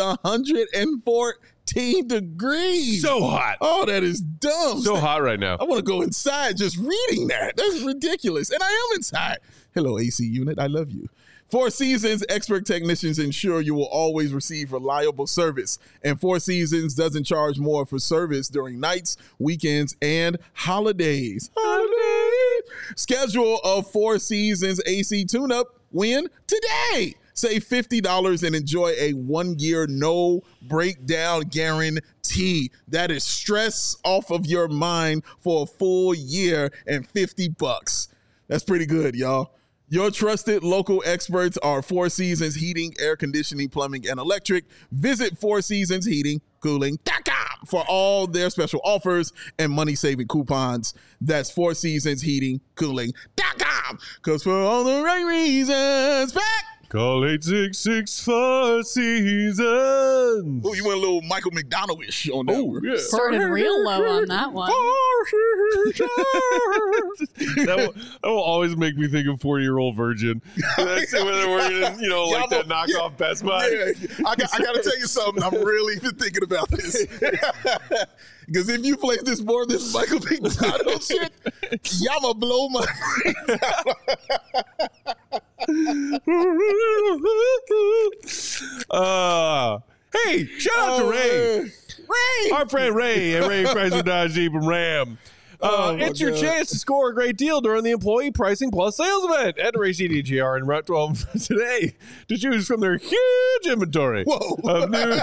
114 degrees. So hot. Oh, that is dumb. So hot right now. I want to go inside just reading that. That's ridiculous. And I am inside. Hello, AC unit. I love you. Four Seasons expert technicians ensure you will always receive reliable service. And Four Seasons doesn't charge more for service during nights, weekends, and holidays. Schedule a Four Seasons AC tune-up win today. Save $50 and enjoy a 1-year no breakdown guarantee. That is stress off of your mind for a full year and $50. That's pretty good, y'all. Your trusted local experts are Four Seasons Heating, Air Conditioning, Plumbing, and Electric. Visit FourSeasonsHeatingCooling.com for all their special offers and money-saving coupons. That's FourSeasonsHeatingCooling.com. Because for all the right reasons, back. Call 866 Four Seasons. Oh, you went a little Michael McDonald-ish on that one. Yeah. Started real low on that one. that will always make me think of 40-Year-Old Virgin. That's when they're working in, like that knockoff Best Buy. Yeah, I got to tell you something. I'm really thinking about this. Because if you play this more this Michael McDonald shit, y'all gonna blow my brains out. Hey, shout out to Ray. Ray! Our friend Ray at Ray Chrysler Dodge Jeep and Ram. It's your chance to score a great deal during the Employee Pricing Plus sales event at Ray CDJR in Route 12 today to choose from their huge inventory of new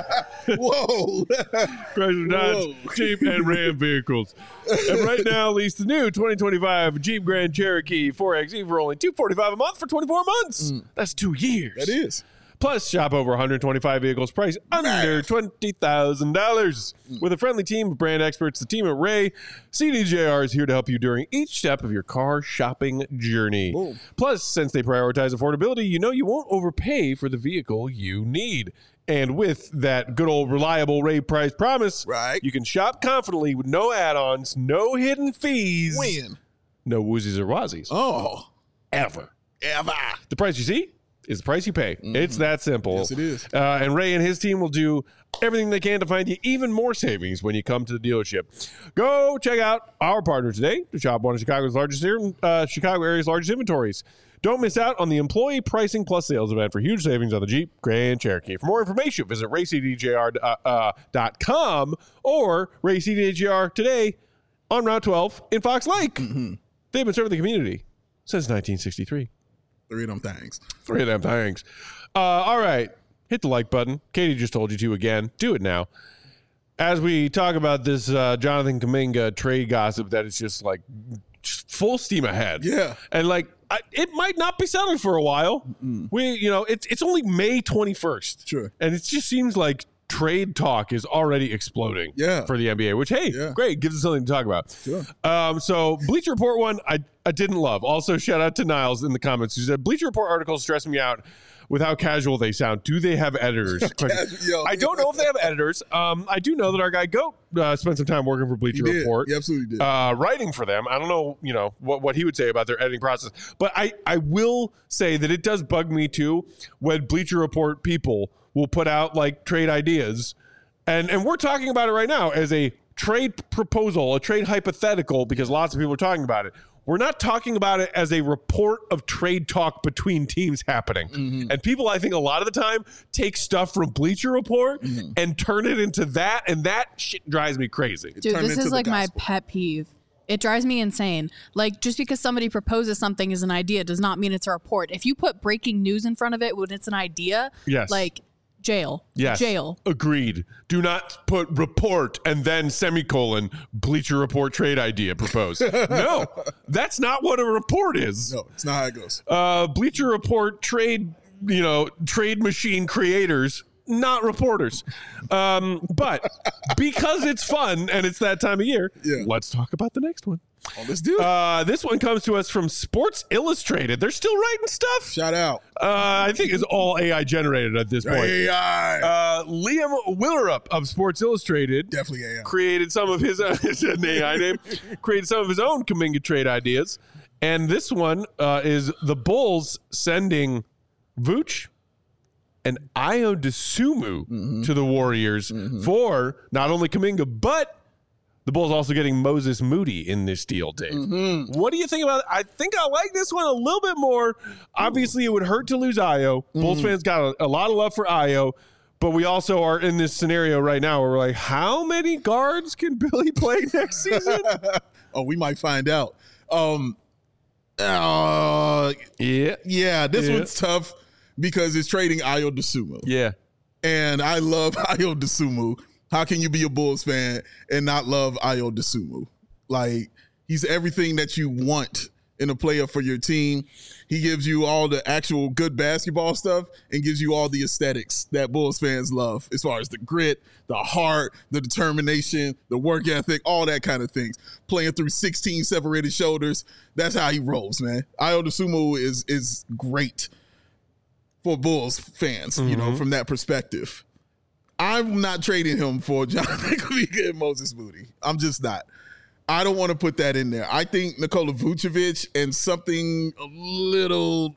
Chrysler Dodge Jeep and Ram vehicles. And right now, lease the new 2025 Jeep Grand Cherokee 4xe for only $245 a month for 24 months. That's 2 years. That is. Plus, shop over 125 vehicles priced under $20,000. With a friendly team of brand experts, the team at Ray CDJR is here to help you during each step of your car shopping journey. Boom. Plus, since they prioritize affordability, you won't overpay for the vehicle you need. And with that good old reliable Ray price promise, you can shop confidently with no add-ons, no hidden fees. When? No woozies or wazies. Oh. Ever. Ever. The price you see is the price you pay. It's that simple. Yes, it is. And Ray and his team will do everything they can to find you even more savings when you come to the dealership. Go check out our partner today to shop one of Chicago area's largest inventories. Don't miss out on the Employee Pricing Plus sales event for huge savings on the Jeep Grand Cherokee. For more information, visit raycdjr.com or Ray CDJR today on Route 12 in Fox Lake. They've been serving the community since 1963. 3 of them things. All right. Hit the like button. Katie just told you to again. Do it now. As we talk about this Jonathan Kuminga trade gossip that is just full steam ahead. Yeah. And it might not be settled for a while. It's only May 21st. Sure. And it just seems like trade talk is already exploding for the NBA, which, great, gives us something to talk about. Sure. So Bleacher Report one, I didn't love. Also, shout out to Niles in the comments who said, Bleacher Report articles stress me out with how casual they sound. Do they have editors? I don't know if they have editors. I do know that our guy Goat spent some time working for Bleacher Report. He absolutely did. Writing for them. I don't know, what he would say about their editing process. But I will say that it does bug me too when Bleacher Report people will put out trade ideas. And we're talking about it right now as a trade proposal, a trade hypothetical, because lots of people are talking about it. We're not talking about it as a report of trade talk between teams happening. Mm-hmm. And people, I think, a lot of the time take stuff from Bleacher Report and turn it into that, and that shit drives me crazy. Dude, this is like my pet peeve. It drives me insane. Like, just because somebody proposes something as an idea does not mean it's a report. If you put breaking news in front of it when it's an idea, like, jail. Yes. Jail. Agreed. Do not put report and then semicolon Bleacher Report trade idea proposed. No, that's not what a report is. No, it's not how it goes. Bleacher Report trade machine creators, not reporters. But because it's fun and it's that time of year, let's talk about the next one. Oh, let's do it. This one comes to us from Sports Illustrated. They're still writing stuff. Shout out. I think it's all AI generated at this point. AI. Liam Willerup of Sports Illustrated Definitely AI. created some of his it's an AI name. Created some of his own Kuminga trade ideas, and this one is the Bulls sending Vooch and Ayo Dosunmu to the Warriors for not only Kuminga but the Bulls also getting Moses Moody in this deal, Dave. What do you think about it? I think I like this one a little bit more. Obviously, it would hurt to lose Ayo. Bulls fans got a lot of love for Ayo, but we also are in this scenario right now where we're like, how many guards can Billy play next season? We might find out. This one's tough because it's trading Ayo Dosunmu. Yeah. And I love Ayo Dosunmu. How can you be a Bulls fan and not love Ayo Dosunmu? Like, he's everything that you want in a player for your team. He gives you all the actual good basketball stuff and gives you all the aesthetics that Bulls fans love, as far as the grit, the heart, the determination, the work ethic, all that kind of things. Playing through 16 separated shoulders. That's how he rolls, man. Ayo Dosunmu is great for Bulls fans, you know, from that perspective. I'm not trading him for Jonathan Kuminga and Moses Moody. I'm just not. I don't want to put that in there. I think Nikola Vucevic and something a little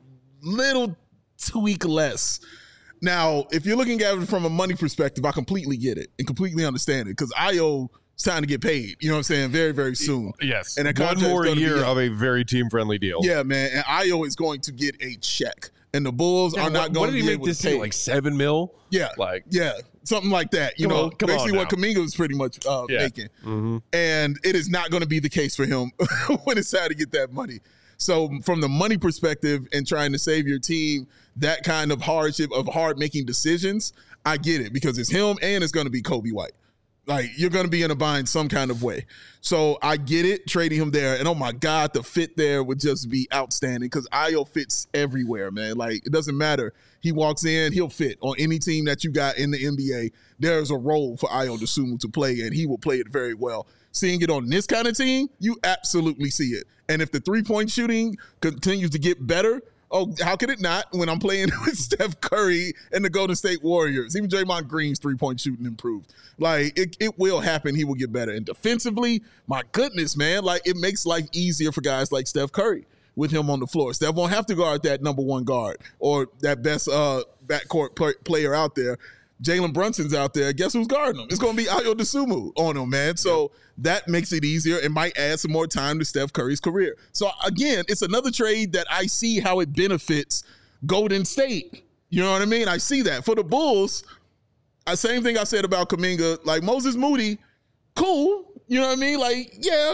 tweak less. Now, if you're looking at it from a money perspective, I completely get it and completely understand it because Ayo is time to get paid. You know what I'm saying? Very, very soon. Yes. And one more year of a very team-friendly deal. Yeah, man. And Ayo is going to get a check. And the Bulls are not going to be able to pay. What did he make this deal? Like $7 million? Yeah. Something like that. You know, basically what Kuminga was pretty much making. And it is not going to be the case for him when it's time to get that money. So from the money perspective and trying to save your team, that kind of hardship of hard making decisions, I get it because it's him and it's going to be Kobe White. Like, you're going to be in a bind some kind of way. So I get it, trading him there. And, oh, my God, the fit there would just be outstanding because Ayo fits everywhere, man. Like, it doesn't matter. He walks in, he'll fit on any team that you got in the NBA. There's a role for Ayo Dosunmu to play, and he will play it very well. Seeing it on this kind of team, you absolutely see it. And if the three-point shooting continues to get better, oh, how could it not when I'm playing with Steph Curry and the Golden State Warriors? Even Draymond Green's three-point shooting improved. Like, it will happen. He will get better. And defensively, my goodness, man, like, it makes life easier for guys like Steph Curry with him on the floor. Steph won't have to guard that number one guard or that best backcourt player out there. Jalen Brunson's out there. Guess who's guarding him? It's going to be Ayo Dosunmu on him, man. So that makes it easier. It might add some more time to Steph Curry's career. So, again, it's another trade that I see how it benefits Golden State. You know what I mean? I see that. For the Bulls, same thing I said about Kuminga. Like, Moses Moody, cool. You know what I mean? Like, yeah,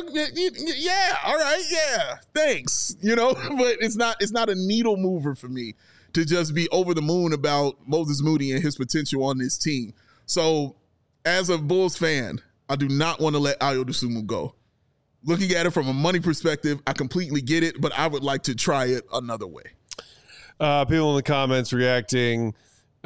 all right, yeah, thanks. You know, but it's not a needle mover for me to just be over the moon about Moses Moody and his potential on this team. So, as a Bulls fan, I do not want to let Ayo Dosunmu go. Looking at it from a money perspective, I completely get it, but I would like to try it another way. People in the comments reacting.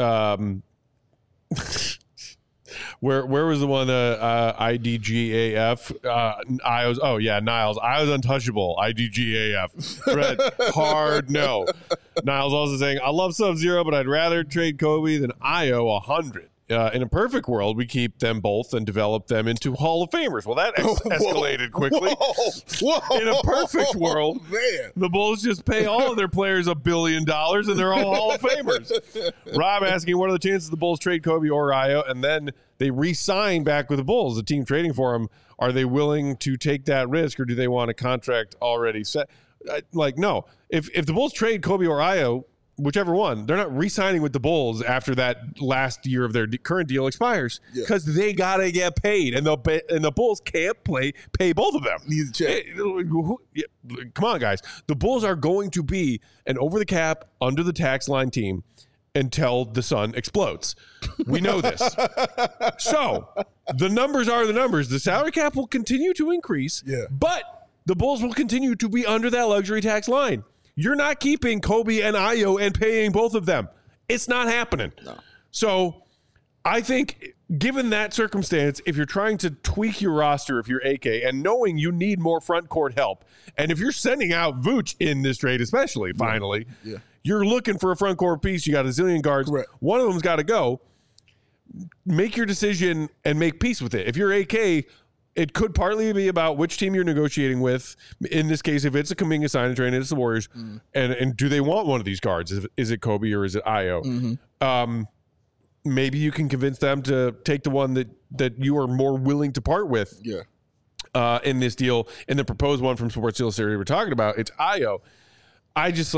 Where was the one IDGAF? Niles. Ayo's untouchable. IDGAF. Red, hard no. Niles also saying, I love Sub-Zero, but I'd rather trade Kobe than Ayo 100. In a perfect world, we keep them both and develop them into Hall of Famers. Well, that escalated quickly. Whoa. In a perfect world, man, the Bulls just pay all of their players $1 billion and they're all Hall of Famers. Rob asking, what are the chances the Bulls trade Kobe or Ayo and then they re-sign back with the Bulls, the team trading for him? Are they willing to take that risk or do they want a contract already set? No. If the Bulls trade Kobe or Ayo, whichever one, they're not re-signing with the Bulls after that last year of their current deal expires because they gotta get paid, and the Bulls can't pay both of them. Need to check. Come on, guys. The Bulls are going to be an over the cap, under the tax line team until the sun explodes. We know this. So the numbers are the numbers. The salary cap will continue to increase, but the Bulls will continue to be under that luxury tax line. You're not keeping Kobe and Ayo and paying both of them. It's not happening. No. So I think given that circumstance, if you're trying to tweak your roster, if you're AK, and knowing you need more front court help, and if you're sending out Vooch in this trade especially, finally, you're looking for a front court piece. You got a zillion guards. Correct. One of them's got to go. Make your decision and make peace with it. If you're AK, it could partly be about which team you're negotiating with. In this case, if it's a Kuminga sign and trade, it's the Warriors. And do they want one of these guards? Is it Kobe or is it Ayo? Maybe you can convince them to take the one that you are more willing to part with. In this deal, in the proposed one from Sports Illustrated we're talking about, it's Ayo. I just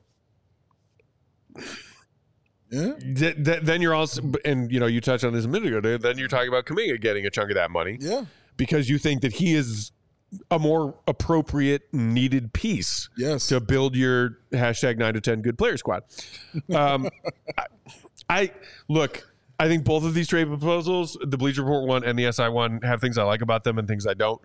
then you're also, and you touched on this a minute ago, then you're talking about Kuminga getting a chunk of that money. Because you think that he is a more appropriate, needed piece to build your hashtag 9 to 10 good player squad. I think both of these trade proposals, the Bleacher Report one and the SI one, have things I like about them and things I don't.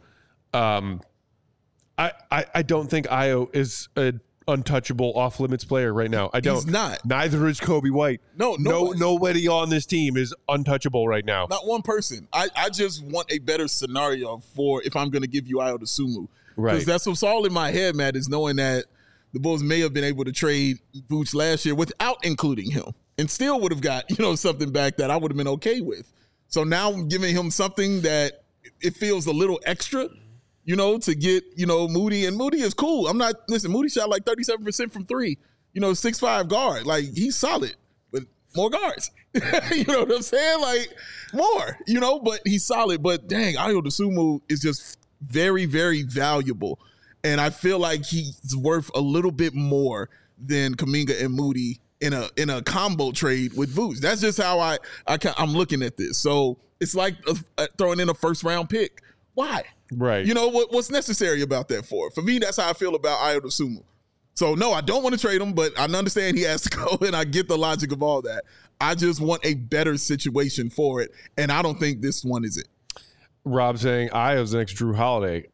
I don't think Ayo is an untouchable off limits player right now. I don't. He's not. Neither is Kobe White. Nobody on this team is untouchable right now. Not one person. I just want a better scenario for if I'm going to give you Ayo Dosunmu. Because that's what's all in my head, Matt, is knowing that the Bulls may have been able to trade Vooch last year without including him and still would have got, something back that I would have been okay with. So now I'm giving him something that it feels a little extra, to get, Moody. And Moody is cool. Moody shot like 37% from three, 6'5" guard. Like, he's solid, but more guards. You know what I'm saying? Like, more, but he's solid. But dang, Ayo Dosunmu is just very, very valuable. And I feel like he's worth a little bit more than Kuminga and Moody in a combo trade with Vooch. That's just how I'm looking at this. So it's like throwing in a first round pick. Why? Right. What's necessary about that for? For me, that's how I feel about Ayo Dosunmu. So no, I don't want to trade him, but I understand he has to go, and I get the logic of all that. I just want a better situation for it, and I don't think this one is it. Rob saying Ayo's the next Drew Holiday.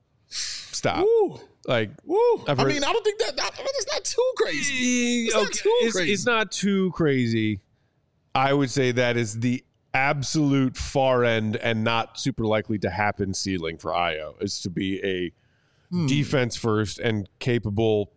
Stop. Woo. Like, woo. I don't think that's not too crazy. It's not too crazy. I would say that is the absolute far end and not super likely to happen ceiling for Ayo is to be a defense first and capable,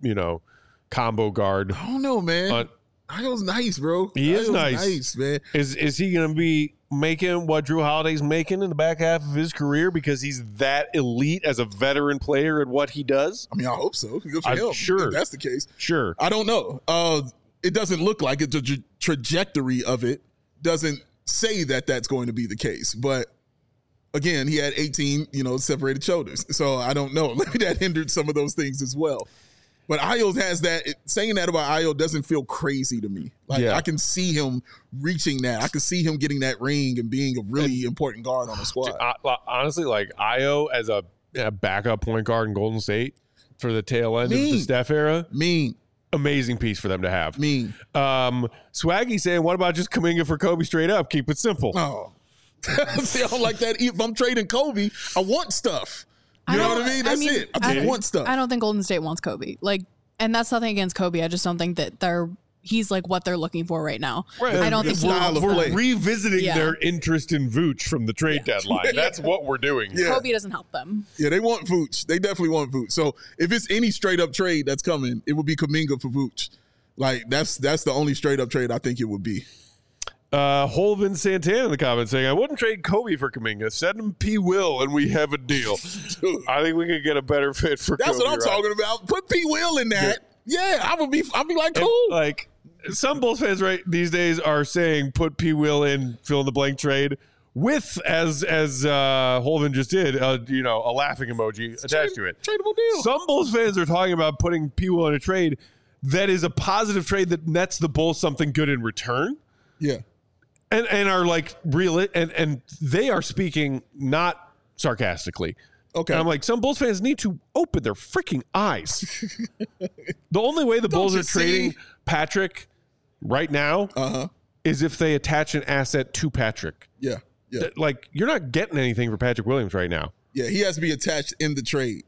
combo guard. I don't know, man. Ayo's nice, bro. He is nice, man. Is he going to be making what Drew Holiday's making in the back half of his career because he's that elite as a veteran player at what he does? I mean, I hope so. Good for him. Sure. If that's the case. Sure. I don't know. It doesn't look like it. The trajectory of it doesn't say that that's going to be the case. But again, he had 18, separated shoulders. So I don't know. Maybe that hindered some of those things as well. But Ayo has that. Saying that about Ayo doesn't feel crazy to me. I can see him reaching that. I can see him getting that ring and being a really important guard on the squad. Honestly, Ayo as a backup point guard in Golden State for the tail end of the Steph era. Amazing piece for them to have. Swaggy saying, what about just Kuminga for Kobe straight up? Keep it simple. Oh. See, I don't like that. If I'm trading Kobe, I want stuff. You know what I mean? That's it. I just want stuff. I don't think Golden State wants Kobe. And that's nothing against Kobe. I just don't think that he's what they're looking for right now. Right. I don't think we're revisiting their interest in Vooch from the trade deadline. That's what we're doing. Yeah. Kobe doesn't help them. Yeah, they want Vooch. They definitely want Vooch. So if it's any straight up trade that's coming, it would be Kuminga for Vooch. That's the only straight up trade I think it would be. Holvin Santana in the comments saying, I wouldn't trade Kobe for Kuminga. Send him P. Will and we have a deal. I think we could get a better fit for That's Kobe. That's what I'm talking about. Put P. Will in that. Yeah, I'd be like, cool. And, like, some Bulls fans right these days are saying put P. Will in fill in the blank trade with, as Holvin just did, a laughing emoji attached to it. Tradable deal. Some Bulls fans are talking about putting P. Will in a trade that is a positive trade that nets the Bulls something good in return. Yeah. And are like real, and they are speaking not sarcastically. Okay. And I'm like, some Bulls fans need to open their freaking eyes. The only way the Bulls are trading Patrick right now is if they attach an asset to Patrick. Yeah. Like, you're not getting anything for Patrick Williams right now. Yeah, he has to be attached in the trade,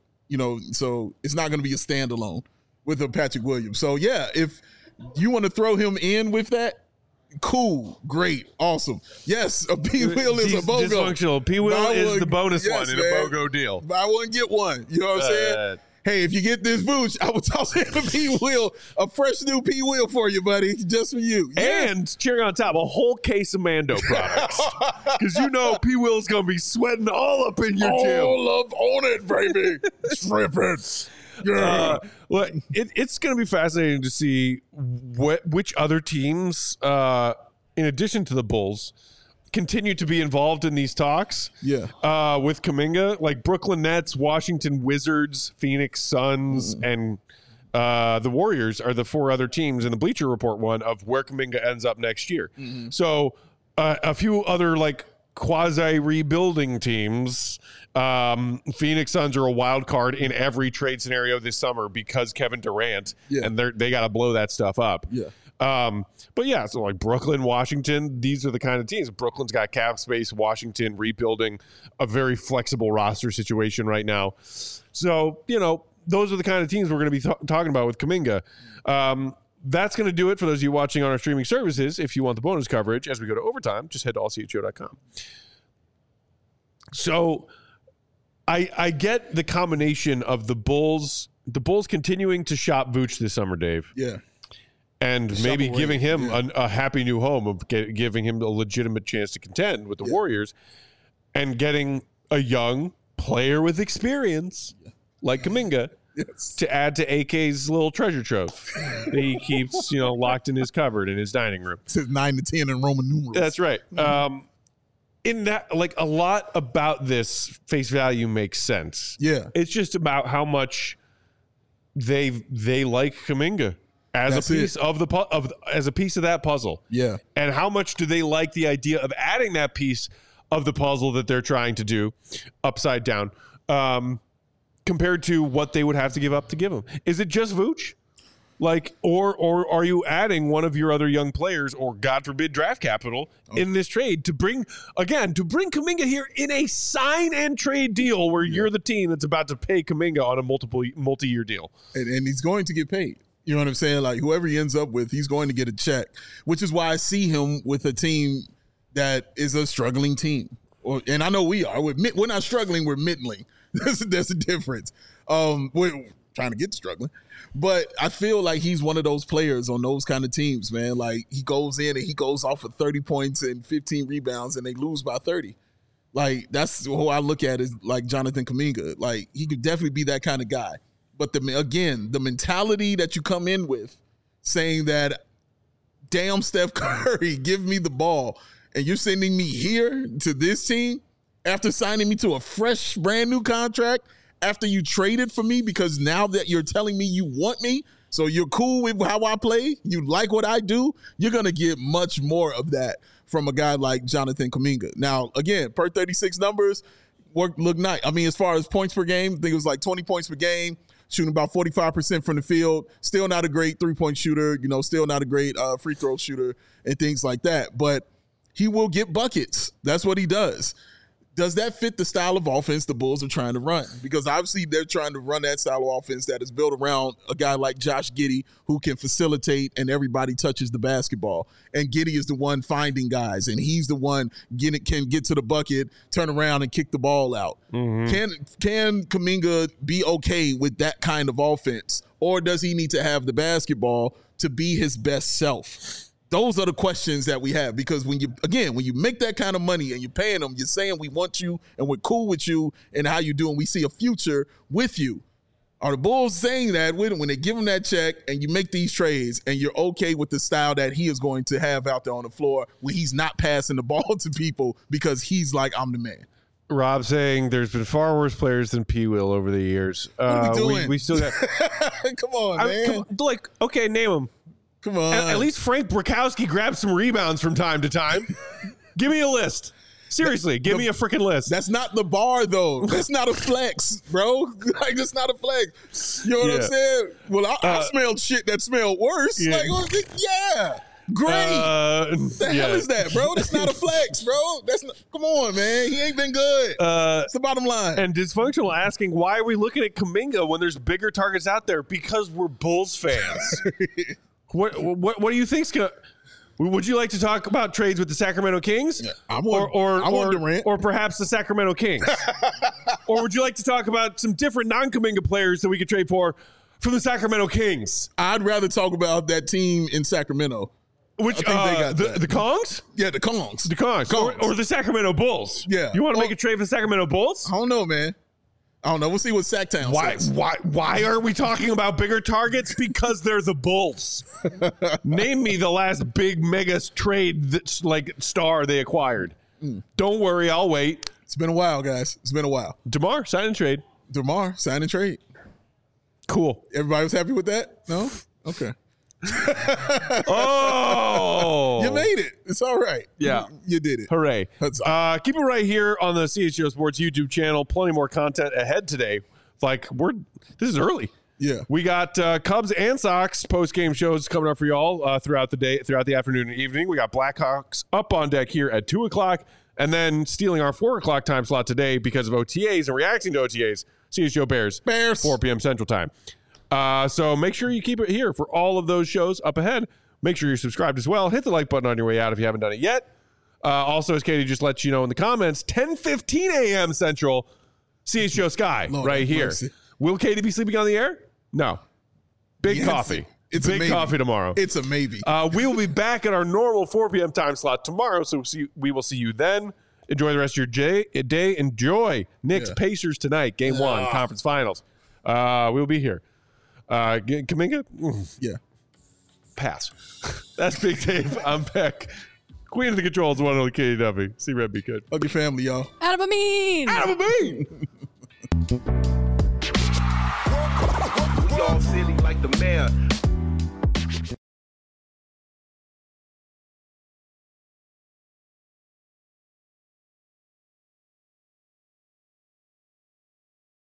so it's not going to be a standalone with a Patrick Williams. So, yeah, if you want to throw him in with that, cool, great, awesome. Yes, a P. Will is a BOGO. Dysfunctional. P. Will is the bonus one in a BOGO deal. Buy one, get one. You know what I'm saying? Hey, if you get this Vooch, I will toss in a P. Will, a fresh new P. Will for you, buddy, just for you. Yeah. And cherry on top, a whole case of Mando products. Because P. Will's going to be sweating all up in your gym. All up on it, baby. Tripping. Yeah. Well, it's going to be fascinating to see which other teams, in addition to the Bulls, continue to be involved in these talks. Yeah. With Kuminga, like Brooklyn Nets, Washington Wizards, Phoenix Suns, and the Warriors are the four other teams in the Bleacher Report one of where Kuminga ends up next year. Mm-hmm. So a few other like quasi rebuilding teams. Phoenix Suns are a wild card in every trade scenario this summer because Kevin Durant, and they got to blow that stuff up. Yeah. But yeah, so like Brooklyn, Washington, these are the kind of teams. Brooklyn's got cap space, Washington rebuilding a very flexible roster situation right now. So, those are the kind of teams we're going to be talking about with Kuminga. That's going to do it for those of you watching on our streaming services. If you want the bonus coverage as we go to overtime, just head to allchgo.com. So I get the combination of the Bulls continuing to shop Vooch this summer, Dave. Yeah. And maybe giving him a happy new home of giving him a legitimate chance to contend with the Warriors and getting a young player with experience like Kuminga to add to AK's little treasure trove that he keeps, locked in his cupboard in his dining room. It says 9 to 10 in Roman numerals. That's right. In that, like, a lot about this face value makes sense. Yeah. It's just about how much they like Kuminga as a piece of that puzzle. Yeah. And how much do they like the idea of adding that piece of the puzzle that they're trying to do upside down, compared to what they would have to give up to give him? Is it just Vooch? Like, or are you adding one of your other young players, or God forbid draft capital in this trade to bring Kuminga here in a sign and trade deal where you're the team that's about to pay Kuminga on a multi-year deal. And he's going to get paid. You know what I'm saying? Like, whoever he ends up with, he's going to get a check, which is why I see him with a team that is a struggling team. And I know we are. We're not struggling. We're middling. There's a difference. We're trying to get struggling. But I feel like he's one of those players on those kind of teams, man. Like, he goes in and he goes off for 30 points and 15 rebounds and they lose by 30. Like, that's who I look at is like Jonathan Kuminga. Like, he could definitely be that kind of guy. But the mentality that you come in with saying that, damn, Steph Curry, give me the ball, and you're sending me here to this team after signing me to a fresh, brand new contract, after you traded for me, because now that you're telling me you want me, so you're cool with how I play, you like what I do, you're going to get much more of that from a guy like Jonathan Kuminga. Now, again, per 36 numbers, look nice. I mean, as far as points per game, I think it was like 20 points per game, shooting about 45% from the field, still not a great three-point shooter, still not a great free throw shooter and things like that. But he will get buckets. That's what he does. Does that fit the style of offense the Bulls are trying to run? Because obviously they're trying to run that style of offense that is built around a guy like Josh Giddey who can facilitate and everybody touches the basketball. And Giddey is the one finding guys, and he's the one can get to the bucket, turn around, and kick the ball out. Mm-hmm. Can Kuminga be okay with that kind of offense, or does he need to have the basketball to be his best self? Those are the questions that we have, because when you make that kind of money and you're paying them, you're saying we want you and we're cool with you and how you do, and we see a future with you. Are the Bulls saying that when they give him that check and you make these trades and you're okay with the style that he is going to have out there on the floor when he's not passing the ball to people because he's like, I'm the man? Rob saying there's been far worse players than P. Will over the years. What are we doing? We still got. Come on, man. Okay, name them. Come on. At least Frank Brakowski grabs some rebounds from time to time. Give me a list. Seriously, give me a freaking list. That's not the bar, though. That's not a flex, bro. Like, that's not a flex. You know what I'm saying? Well, I smelled shit that smelled worse. Yeah. Like, yeah. Great. The hell is that, bro? That's not a flex, bro. Come on, man. He ain't been good. That's the bottom line. And Dysfunctional asking, why are we looking at Kuminga when there's bigger targets out there? Because we're Bulls fans. What do you think's gonna? Would you like to talk about trades with the Sacramento Kings? Yeah, I want Durant, or perhaps the Sacramento Kings? Or would you like to talk about some different non-Kuminga players that we could trade for from the Sacramento Kings? I'd rather talk about that team in Sacramento. Which they got the Kongs? Yeah, the Kongs. The Kongs. Or the Sacramento Bulls. Yeah. You want to make a trade for the Sacramento Bulls? I don't know, man. I don't know. We'll see what Sacktown says. Why are we talking about bigger targets? Because they're the Bulls. Name me the last big mega trade that's like star they acquired. Don't worry, I'll wait. It's been a while, guys. It's been a while. DeMar, sign and trade. DeMar, sign and trade. Cool. Everybody was happy with that? No? Okay. Oh, you made it. It's all right. Yeah, you did it. Hooray! Keep it right here on the CHGO Sports YouTube channel. Plenty more content ahead today. This is early. Yeah, we got Cubs and Sox post game shows coming up for y'all throughout the day, throughout the afternoon and evening. We got Blackhawks up on deck here at 2:00, and then stealing our 4:00 time slot today because of OTAs and reacting to OTAs. CHGO Bears 4 p.m. Central Time. So make sure you keep it here for all of those shows up ahead. Make sure you're subscribed as well. Hit the like button on your way out if you haven't done it yet. Also, as Katie just let you know in the comments, 10:15 a.m. Central, CHGO Sky right here. Mercy. Will Katie be sleeping on the air? No. Big coffee. It's big coffee tomorrow. It's a maybe. We will be back at our normal 4 p.m. time slot tomorrow, so we will see you then. Enjoy the rest of your day. Enjoy Knicks Pacers tonight, Game 1, Conference Finals. We'll be here. Kuminga? Yeah. Pass. That's Big Dave. I'm Beck. Queen of the Controls, one and only Katie Duffy. See Red, be good. Hug your family, y'all. Adam Amin. Adam Amin. We all silly like the mayor.